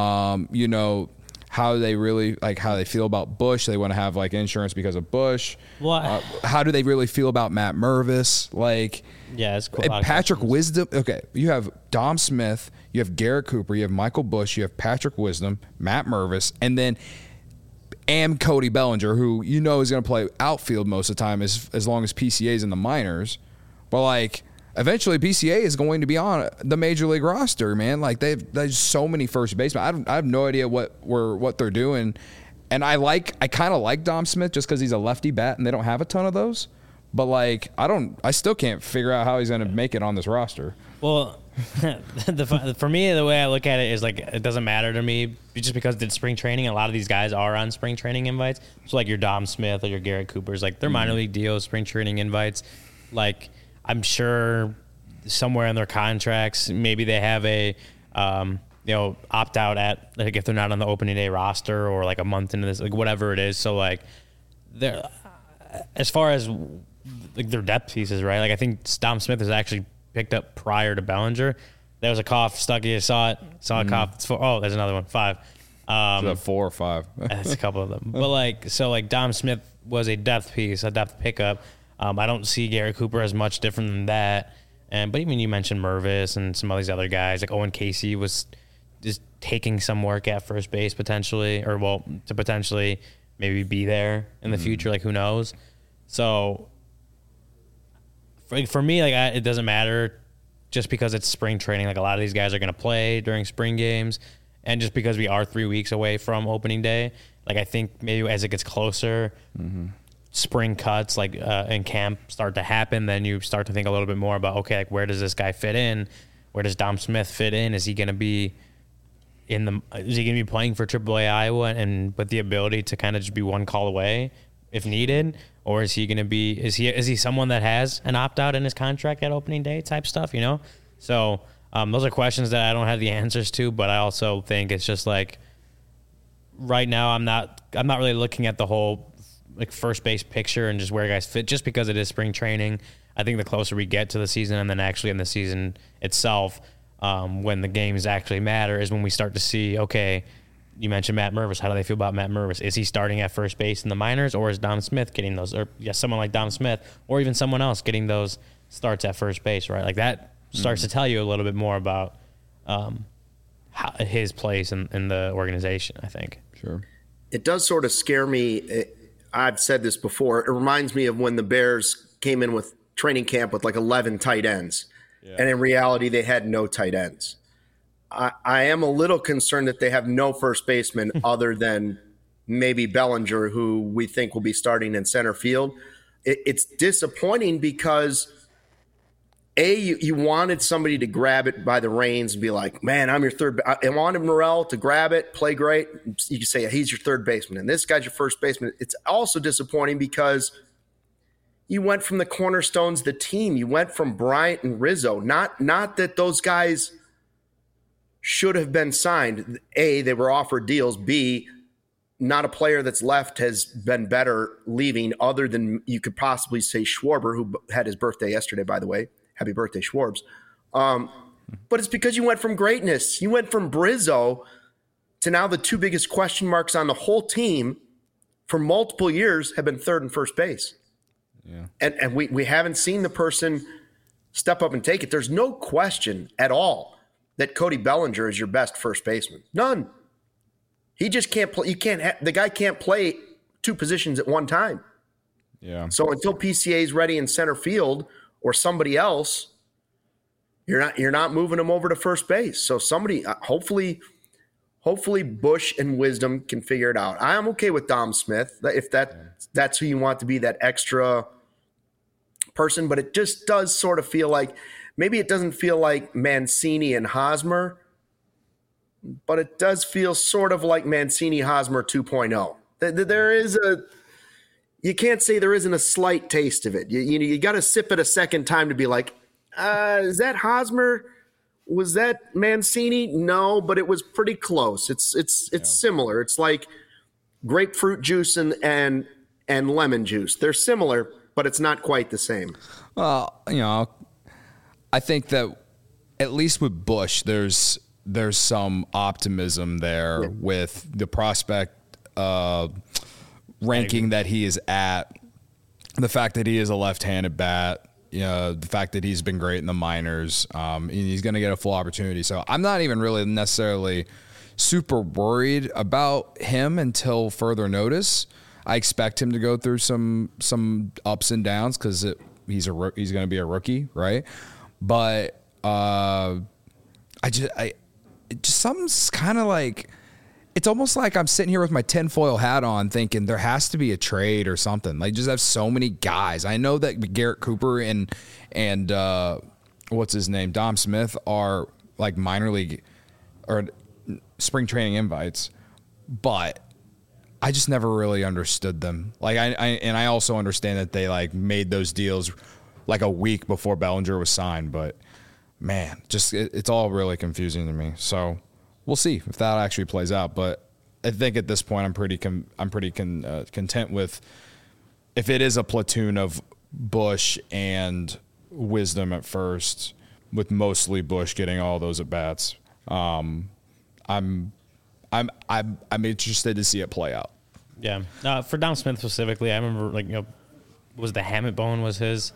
how they really, how they feel about Bush? They want to have, insurance because of Bush. What? How do they really feel about Matt Mervis? Yeah, it's cool. Patrick Wisdom. Okay, you have Dom Smith, you have Garrett Cooper, you have Michael Bush, you have Patrick Wisdom, Matt Mervis, and then Cody Bellinger, who is going to play outfield most of the time as long as PCA is in the minors. But eventually PCA is going to be on the major league roster, man. There's so many first basemen. I have no idea what they're doing And I kind of like Dom Smith just because he's a lefty bat and they don't have a ton of those. But like, I still can't figure out how he's going to make it on this roster. Well, for me, the way I look at it is like, it doesn't matter to me just because it's spring training. A lot of these guys are on spring training invites. So like your Dom Smith or your Garrett Coopers, like they're minor league deals, spring training invites. Like I'm sure somewhere in their contracts, maybe they have a, opt out at, like if they're not on the opening day roster or like a month into this, like whatever it is. So like they're, as far as like their depth pieces, right? Like I think Dom Smith is actually picked up prior to Bellinger. There was a cough, Stucky, I saw a cough. It's 4. Oh, there's another one, 5. Is that 4 or 5? That's a couple of them. But like, so like Dom Smith was a depth piece, a depth pickup. I don't see Garrett Cooper as much different than that. But even you mentioned Mervis and some of these other guys, like Owen Casey was just taking some work at first base potentially, to potentially maybe be there in the future. Like who knows? So for me, like it doesn't matter just because it's spring training. Like a lot of these guys are going to play during spring games, and just because we are 3 weeks away from opening day, like I think maybe as it gets closer, spring cuts like in camp start to happen, then you start to think a little bit more about, okay, like where does this guy fit in? Where does Dom Smith fit in? Is he going to be playing for AAA Iowa and with the ability to kind of just be one call away if needed? Or is he going to be, is he someone that has an opt-out in his contract at opening day type stuff, you know? So those are questions that I don't have the answers to, but I also think it's just like right now I'm not really looking at the whole like first base picture and just where guys fit just because it is spring training. I think the closer we get to the season and then actually in the season itself, when the games actually matter is when we start to see, okay, you mentioned Matt Mervis. How do they feel about Matt Mervis? Is he starting at first base in the minors, or is Dom Smith getting those? Or someone like Dom Smith, or even someone else getting those starts at first base, right? Like that starts to tell you a little bit more about his place in the organization, I think. Sure. It does sort of scare me. I've said this before. It reminds me of when the Bears came in with training camp with like 11 tight ends. Yeah. And in reality, they had no tight ends. I am a little concerned that they have no first baseman other than maybe Bellinger, who we think will be starting in center field. It's disappointing because, you wanted somebody to grab it by the reins and be like, man, I'm your third. I wanted Morel to grab it, play great. You can say he's your third baseman, and this guy's your first baseman. It's also disappointing because you went from the cornerstones of the team. You went from Bryant and Rizzo. Not that those guys should have been signed. A, they were offered deals. B, not a player that's left has been better leaving other than you could possibly say Schwarber, who had his birthday yesterday, by the way. Happy birthday, Schwarbs. But it's because you went from greatness. You went from Brizzo to now the two biggest question marks on the whole team for multiple years have been third and first base. Yeah. And we haven't seen the person step up and take it. There's no question at all that Cody Bellinger is your best first baseman. None. He just can't play. The guy can't play two positions at one time. Yeah. So until PCA is ready in center field or somebody else, you're not moving him over to first base. So somebody, hopefully Bush and Wisdom can figure it out. I am okay with Dom Smith if that's who you want to be, that extra person. But it just does sort of feel like maybe it doesn't feel like Mancini and Hosmer, but it does feel sort of like Mancini Hosmer 2.0. There is you can't say there isn't a slight taste of it. You got to sip it a second time to be like, is that Hosmer? Was that Mancini? No, but it was pretty close. It's similar. It's like grapefruit juice and lemon juice. They're similar, but it's not quite the same. Well, I think that at least with Bush, there's some optimism there with the prospect ranking that he is at, the fact that he is a left-handed bat, the fact that he's been great in the minors, and he's going to get a full opportunity. So I'm not even really necessarily super worried about him until further notice. I expect him to go through some ups and downs because he's going to be a rookie, right? But something's kind of like it's almost like I'm sitting here with my tinfoil hat on thinking there has to be a trade or something. Like, just have so many guys. I know that Garrett Cooper and what's his name, Dom Smith, are like minor league or spring training invites, but I just never really understood them. Like, I also understand that they like made those deals like a week before Bellinger was signed, but man, just it's all really confusing to me. So we'll see if that actually plays out. But I think at this point, I'm pretty content with if it is a platoon of Bush and Wisdom at first, with mostly Bush getting all those at bats. I'm interested to see it play out. Yeah. For Dom Smith specifically, I remember was the hamate bone was his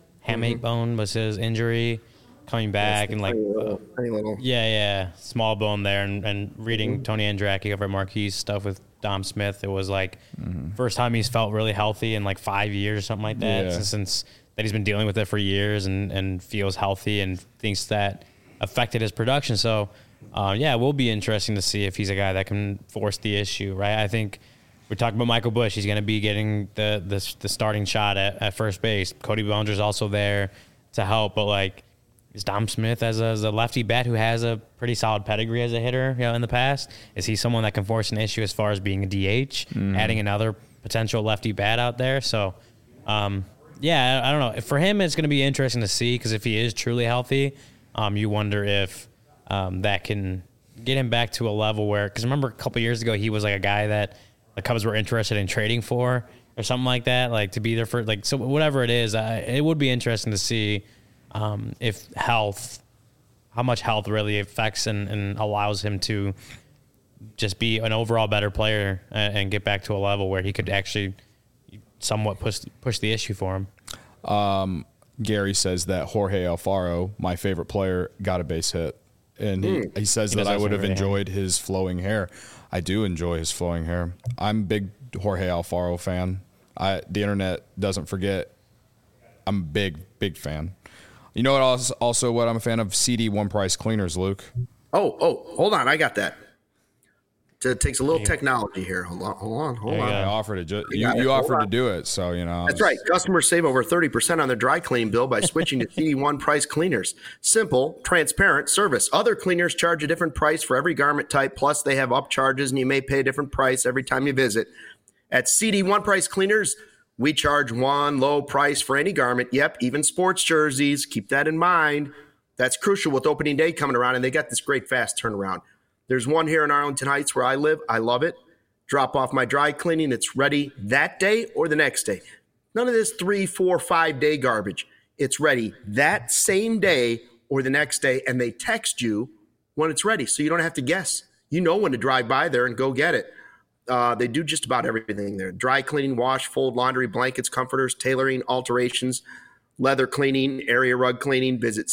injury coming back and like tiny little. Small bone there and reading Tony Andracki over at Marquis stuff with Dom Smith, it was like first time he's felt really healthy in like 5 years or something like that since that he's been dealing with it for years and feels healthy and thinks that affected his production. So it will be interesting to see if he's a guy that can force the issue, right? I think we're talking about Michael Busch. He's going to be getting the starting shot at first base. Cody Bellinger's also there to help, but like, is Dom Smith as a lefty bat who has a pretty solid pedigree as a hitter, in the past? Is he someone that can force an issue as far as being a DH, adding another potential lefty bat out there? So, I don't know. For him, it's going to be interesting to see because if he is truly healthy, you wonder if that can get him back to a level where, because remember a couple years ago, he was like a guy that the Cubs were interested in trading for or something like that, like to be there for, like, so whatever it is, it would be interesting to see if how much health really affects and allows him to just be an overall better player and get back to a level where he could actually somewhat push the issue for him. Gary says that Jorge Alfaro, my favorite player, got a base hit. And he says that I would have enjoyed his flowing hair. I do enjoy his flowing hair. I'm a big Jorge Alfaro fan. The internet doesn't forget. I'm a big fan. You know what? Also, what I'm a fan of, CD One Price Cleaners, Luke. Oh, hold on, I got that. It takes a little technology here. Hold on. I offered to you offered to do it, so That's right. Customers save over 30% on their dry cleaning bill by switching to CD One Price Cleaners. Simple, transparent service. Other cleaners charge a different price for every garment type. Plus, they have upcharges, and you may pay a different price every time you visit. At CD One Price Cleaners, we charge one low price for any garment. Yep, even sports jerseys. Keep that in mind. That's crucial with opening day coming around, and they got this great fast turnaround. There's one here in Arlington Heights where I live. I love it. Drop off my dry cleaning. It's ready that day or the next day. None of this 3, 4, 5 day garbage. It's ready that same day or the next day, and they text you when it's ready, so you don't have to guess. You know when to drive by there and go get it. They do just about everything there. Dry cleaning, wash, fold, laundry, blankets, comforters, tailoring, alterations, leather cleaning, area rug cleaning. Visit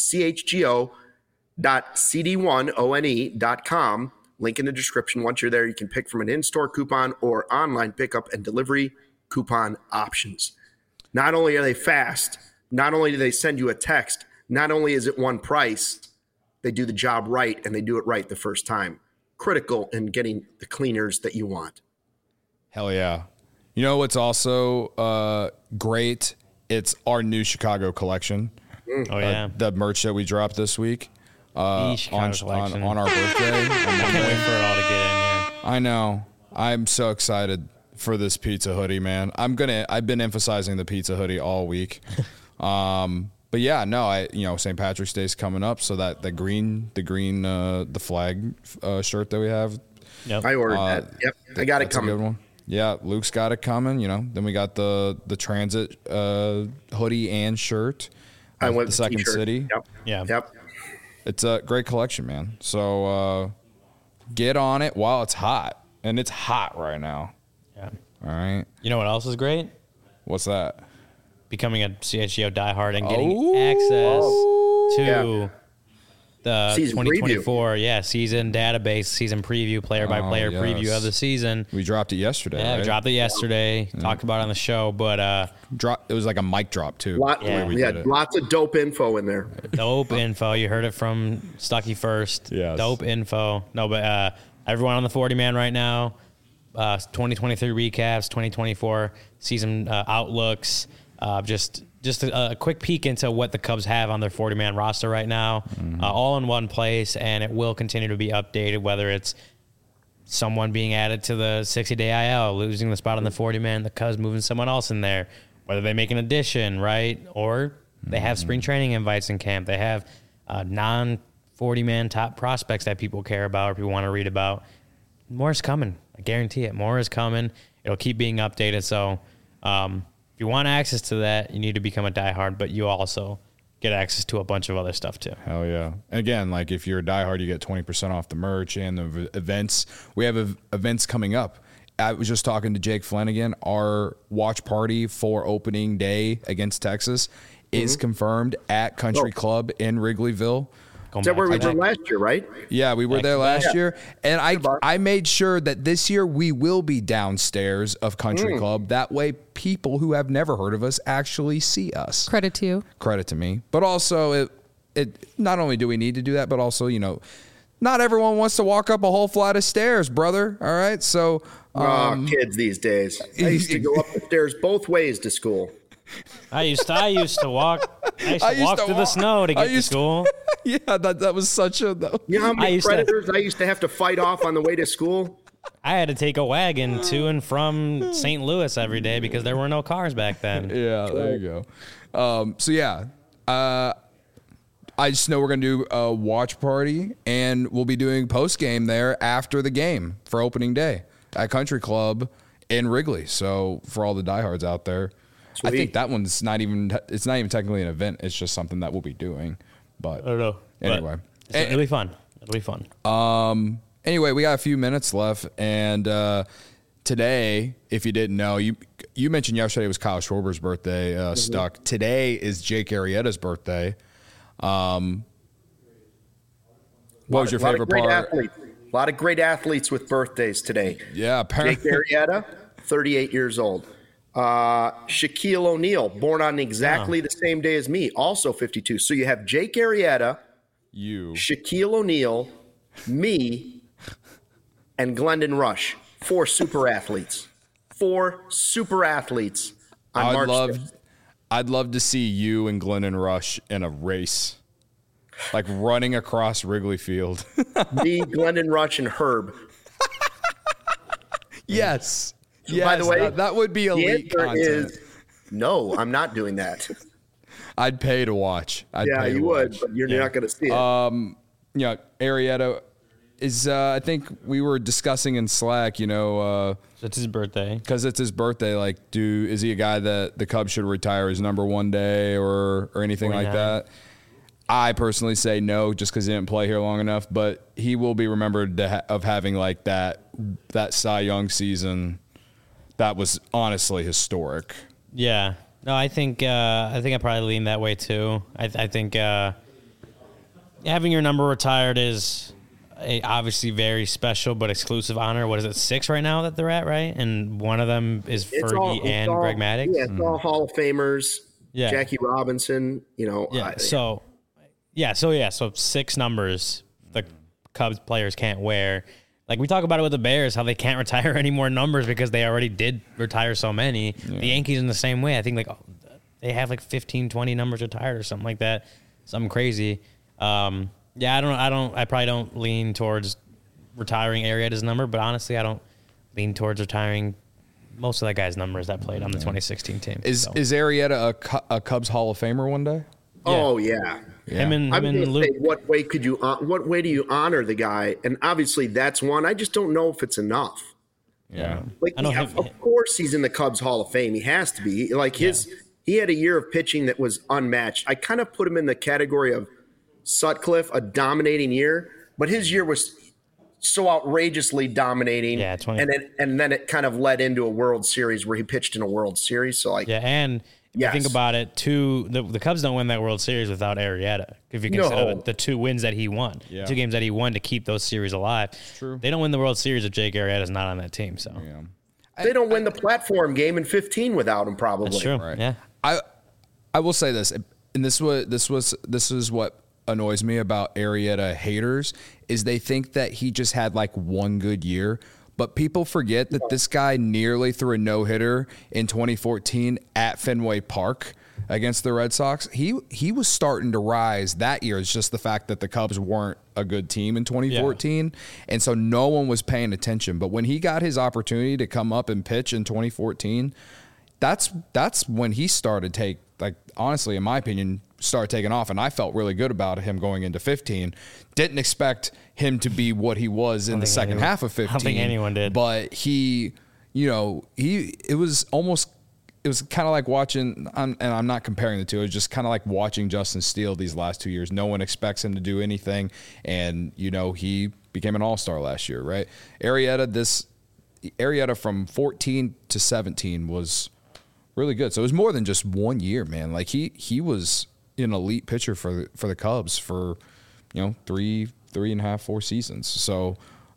chgo.cd1one.com. Link in the description. Once you're there, you can pick from an in-store coupon or online pickup and delivery coupon options. Not only are they fast, not only do they send you a text, not only is it one price, they do the job right, and they do it right the first time. Critical in getting the cleaners that you want. Hell yeah. You know what's also great? It's our new Chicago collection. Oh, yeah. The merch that we dropped this week on our birthday. I can't wait for it all to get in here. I know. I'm so excited for this pizza hoodie, man. I've been emphasizing the pizza hoodie all week. But yeah, no, St. Patrick's Day is coming up, so that the flag shirt that we have. Yep. I ordered that. Yep, I got it coming. A good one. Yeah, Luke's got it coming. Then we got the transit hoodie and shirt. I went the Second t-shirt. City. Yep. Yeah. Yep. It's a great collection, man. So get on it while it's hot, and it's hot right now. Yeah. All right. You know what else is great? What's that? Becoming a CHGO diehard and getting access to the season 2024 season database, season preview, player-by-player preview of the season. We dropped it yesterday. Yeah, right? we dropped it yesterday. Talked about it on the show, but it was like a mic drop too. We had lots of dope info in there. Dope info. You heard it from Stuckey first. Yes. Dope info. No, but I everyone on the 40 man right now. 2023 recaps, 2024 season outlooks. Just a quick peek into what the Cubs have on their 40 man roster right now, all in one place, and it will continue to be updated. Whether it's someone being added to the 60-day IL, losing the spot on the 40 man, the Cubs moving someone else in there, whether they make an addition, right, or they have spring training invites in camp. They have non 40 man top prospects that people care about or people want to read about. More is coming. I guarantee it. More is coming. It'll keep being updated. So if you want access to that, you need to become a diehard, but you also get access to a bunch of other stuff too. Hell yeah. And again, like if you're a diehard, you get 20% off the merch and the events. We have events coming up. I was just talking to Jake Flanagan. Our watch party for opening day against Texas is confirmed at Country Club in Wrigleyville. Is that where we were last year, right? Yeah, we were there last year. And I made sure that this year we will be downstairs of Country Club. That way people who have never heard of us actually see us. Credit to you. Credit to me. But also, it not only do we need to do that, but also, not everyone wants to walk up a whole flight of stairs, brother. All right? So kids these days. I used to go up the stairs both ways to school. I used to walk through the snow to get to school. Yeah, that was such a... You know how many predators I used to have to fight off on the way to school? I had to take a wagon to and from St. Louis every day because there were no cars back then. Yeah, there you go. I just know we're going to do a watch party, and we'll be doing post-game there after the game for opening day at Country Club in Wrigley. So for all the diehards out there, sweet. I think that one's not even technically an event. It's just something that we'll be doing. But I don't know. Anyway. It'll be fun. It'll be fun. Anyway, we got a few minutes left, and today, if you didn't know, you mentioned yesterday was Kyle Schwarber's birthday stuck. Today is Jake Arrieta's birthday. What was your favorite part? A lot of great athletes with birthdays today. Yeah, Jake Arrieta, 38 years old. Shaquille O'Neal, born on exactly the same day as me, also 52. So you have Jake Arrieta, Shaquille O'Neal, me, and Glendon Rush. 4 super athletes. 4 super athletes on March 5th. I'd love to see you and Glendon Rush in a race, like running across Wrigley Field. Me, Glendon Rush, and Herb. Yes. Yes, by the way, that would be elite content. No, I'm not doing that. I'd pay to watch. You would, but you're not going to see it. Arrieta is, I think we were discussing in Slack, it's his birthday. Because it's his birthday. Like, is he a guy that the Cubs should retire his number one day or anything 49. Like that? I personally say no, just because he didn't play here long enough. But he will be remembered of having like that Cy Young season. That was honestly historic. Yeah. No, I think I probably lean that way too. I think having your number retired is a obviously very special but exclusive honor. What is it, 6 right now that they're at, right? And one of them is Fergie and Greg Maddux. Yeah, it's all Hall of Famers. Yeah. Jackie Robinson, Yeah. So 6 numbers the Cubs players can't wear. Like we talk about it with the Bears, how they can't retire any more numbers because they already did retire so many. Yeah. The Yankees in the same way. I think they have like 15, 20 numbers retired or something like that. Something crazy. I probably don't lean towards retiring Arrieta's number, but honestly, I don't lean towards retiring most of that guy's numbers that played on the 2016 team. Is Arrieta a Cubs Hall of Famer one day? Yeah. Oh yeah. Yeah. Him and Luke. Say, what way do you honor the guy? And obviously that's one. I just don't know if it's enough. Yeah. Of course he's in the Cubs Hall of Fame. He has to be. He had a year of pitching that was unmatched. I kind of put him in the category of Sutcliffe, a dominating year, but his year was so outrageously dominating. Yeah, and then it kind of led into a World Series where he pitched in a World Series. So If you think about it, the Cubs don't win that World Series without Arrieta. If you consider the 2 wins that he won, 2 games that he won to keep those series alive. True. They don't win the World Series if Jake Arrieta's not on that team. So they don't win the platform game in 15 without him. Probably. That's true. Right. Yeah. I will say this, and this is what annoys me about Arrieta haters is they think that he just had like one good year. But people forget that this guy nearly threw a no-hitter in 2014 at Fenway Park against the Red Sox. He was starting to rise that year. It's just the fact that the Cubs weren't a good team in 2014, and so no one was paying attention. But when he got his opportunity to come up and pitch in 2014, that's when he started honestly, in my opinion, started taking off, and I felt really good about him going into 15. Didn't expect him to be what he was in the second half of 15. I don't think anyone did. But it was kind of like watching, and I'm not comparing the two, it was just kind of like watching Justin Steele these last 2 years. No one expects him to do anything, and, he became an all-star last year, right? Arrieta from 14 to 17 was really good. So it was more than just 1 year, man. Like, he was an elite pitcher for the Cubs for, 3.5, 4 seasons. So,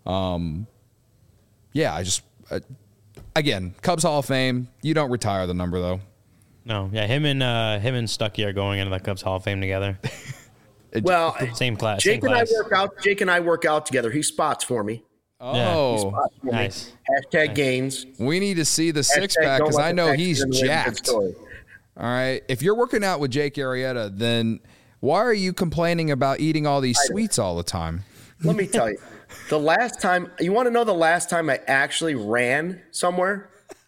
again, Cubs Hall of Fame. You don't retire the number, though. No, yeah, him and Stuckey are going into the Cubs Hall of Fame together. Well, same class. Jake same and class. Jake and I work out together. He spots for me. Oh, nice. Hashtag gains. We need to see the six-pack because I know he's jacked. All right. If you're working out with Jake Arrieta, then why are you complaining about eating all these sweets all the time? Let me tell you, the last time – you want to know the last time I actually ran somewhere?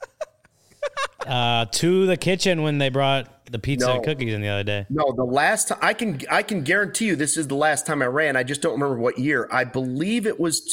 To the kitchen when they brought the pizza and cookies in the other day. No, the last time – I can guarantee you this is the last time I ran. I just don't remember what year. I believe it was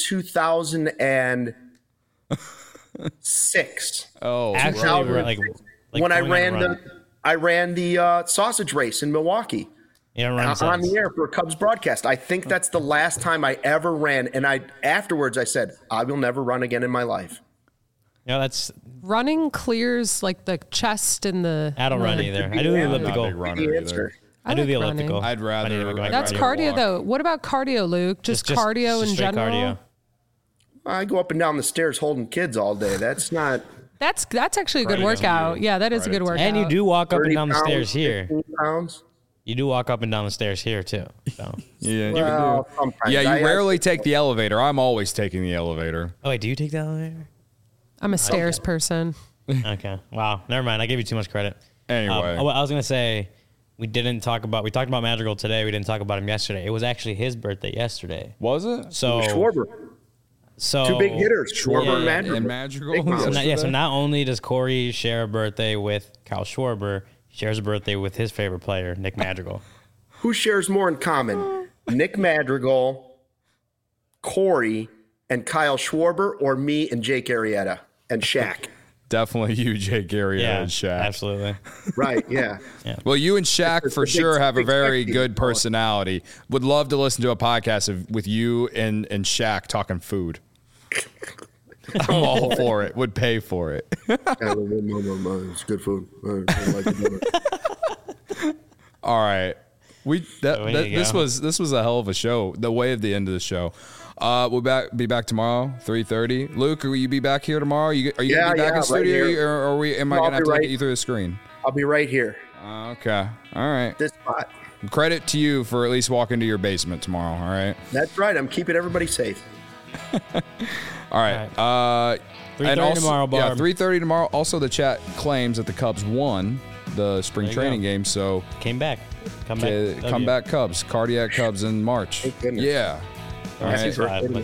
2006. Oh, actually, like when I ran the sausage race in Milwaukee. On the air for a Cubs broadcast. I think that's the last time I ever ran. And afterwards I said, I will never run again in my life. Yeah, that's running clears like the chest and the. I don't run either. I do the elliptical. I do the elliptical. I'd rather. That's cardio walk. Though. What about cardio, Luke? Just cardio in general. Cardio. I go up and down the stairs holding kids all day. That's not. That's actually a good workout. Yeah, that is a good workout. And you do walk up and down the stairs here. 15 pounds. You do walk up and down the stairs here too. So. You rarely take the elevator. I'm always taking the elevator. Oh wait, do you take the elevator? I'm a stairs person. Okay. Wow. Never mind. I gave you too much credit. Anyway, I was gonna say we talked about Madrigal today. We didn't talk about him yesterday. It was actually his birthday yesterday. Was it? So Schwarber. So two big hitters, Schwarber and Madrigal. So not only does Corey share a birthday with Kyle Schwarber, he shares a birthday with his favorite player, Nick Madrigal. Who shares more in common? Nick Madrigal, Corey, and Kyle Schwarber, or me and Jake Arrieta and Shaq? Definitely you, Jake Arrieta, and Shaq. Absolutely. Right, yeah. Well, you and Shaq for sure have a very good personality. Would love to listen to a podcast with you and Shaq talking food. I'm all for it. Would pay for it. It's good food. I like it. All right. This was a hell of a show. The way of the end of the show. We'll be back tomorrow, 3:30. Luke, will you be back here tomorrow? Are you gonna be back in studio, or am I gonna have to look at you through the screen? I'll be right here. Okay. All right. This spot. Credit to you for at least walking to your basement tomorrow. All right. That's right. I'm keeping everybody safe. All right. 3:30 tomorrow, Barb. 3:30 tomorrow. Also, the chat claims that the Cubs won the spring training game. So came back. Come back Cubs. Cardiac Cubs in March. Yeah. All right.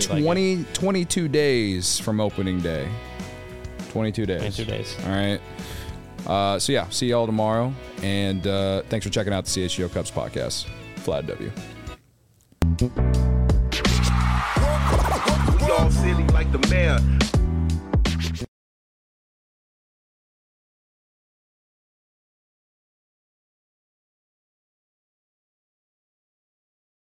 22 days from opening day. 22 days. 22 days. All right. So yeah, see y'all tomorrow. And thanks for checking out the CHGO Cubs podcast. Vlad W. We all silly like the mayor.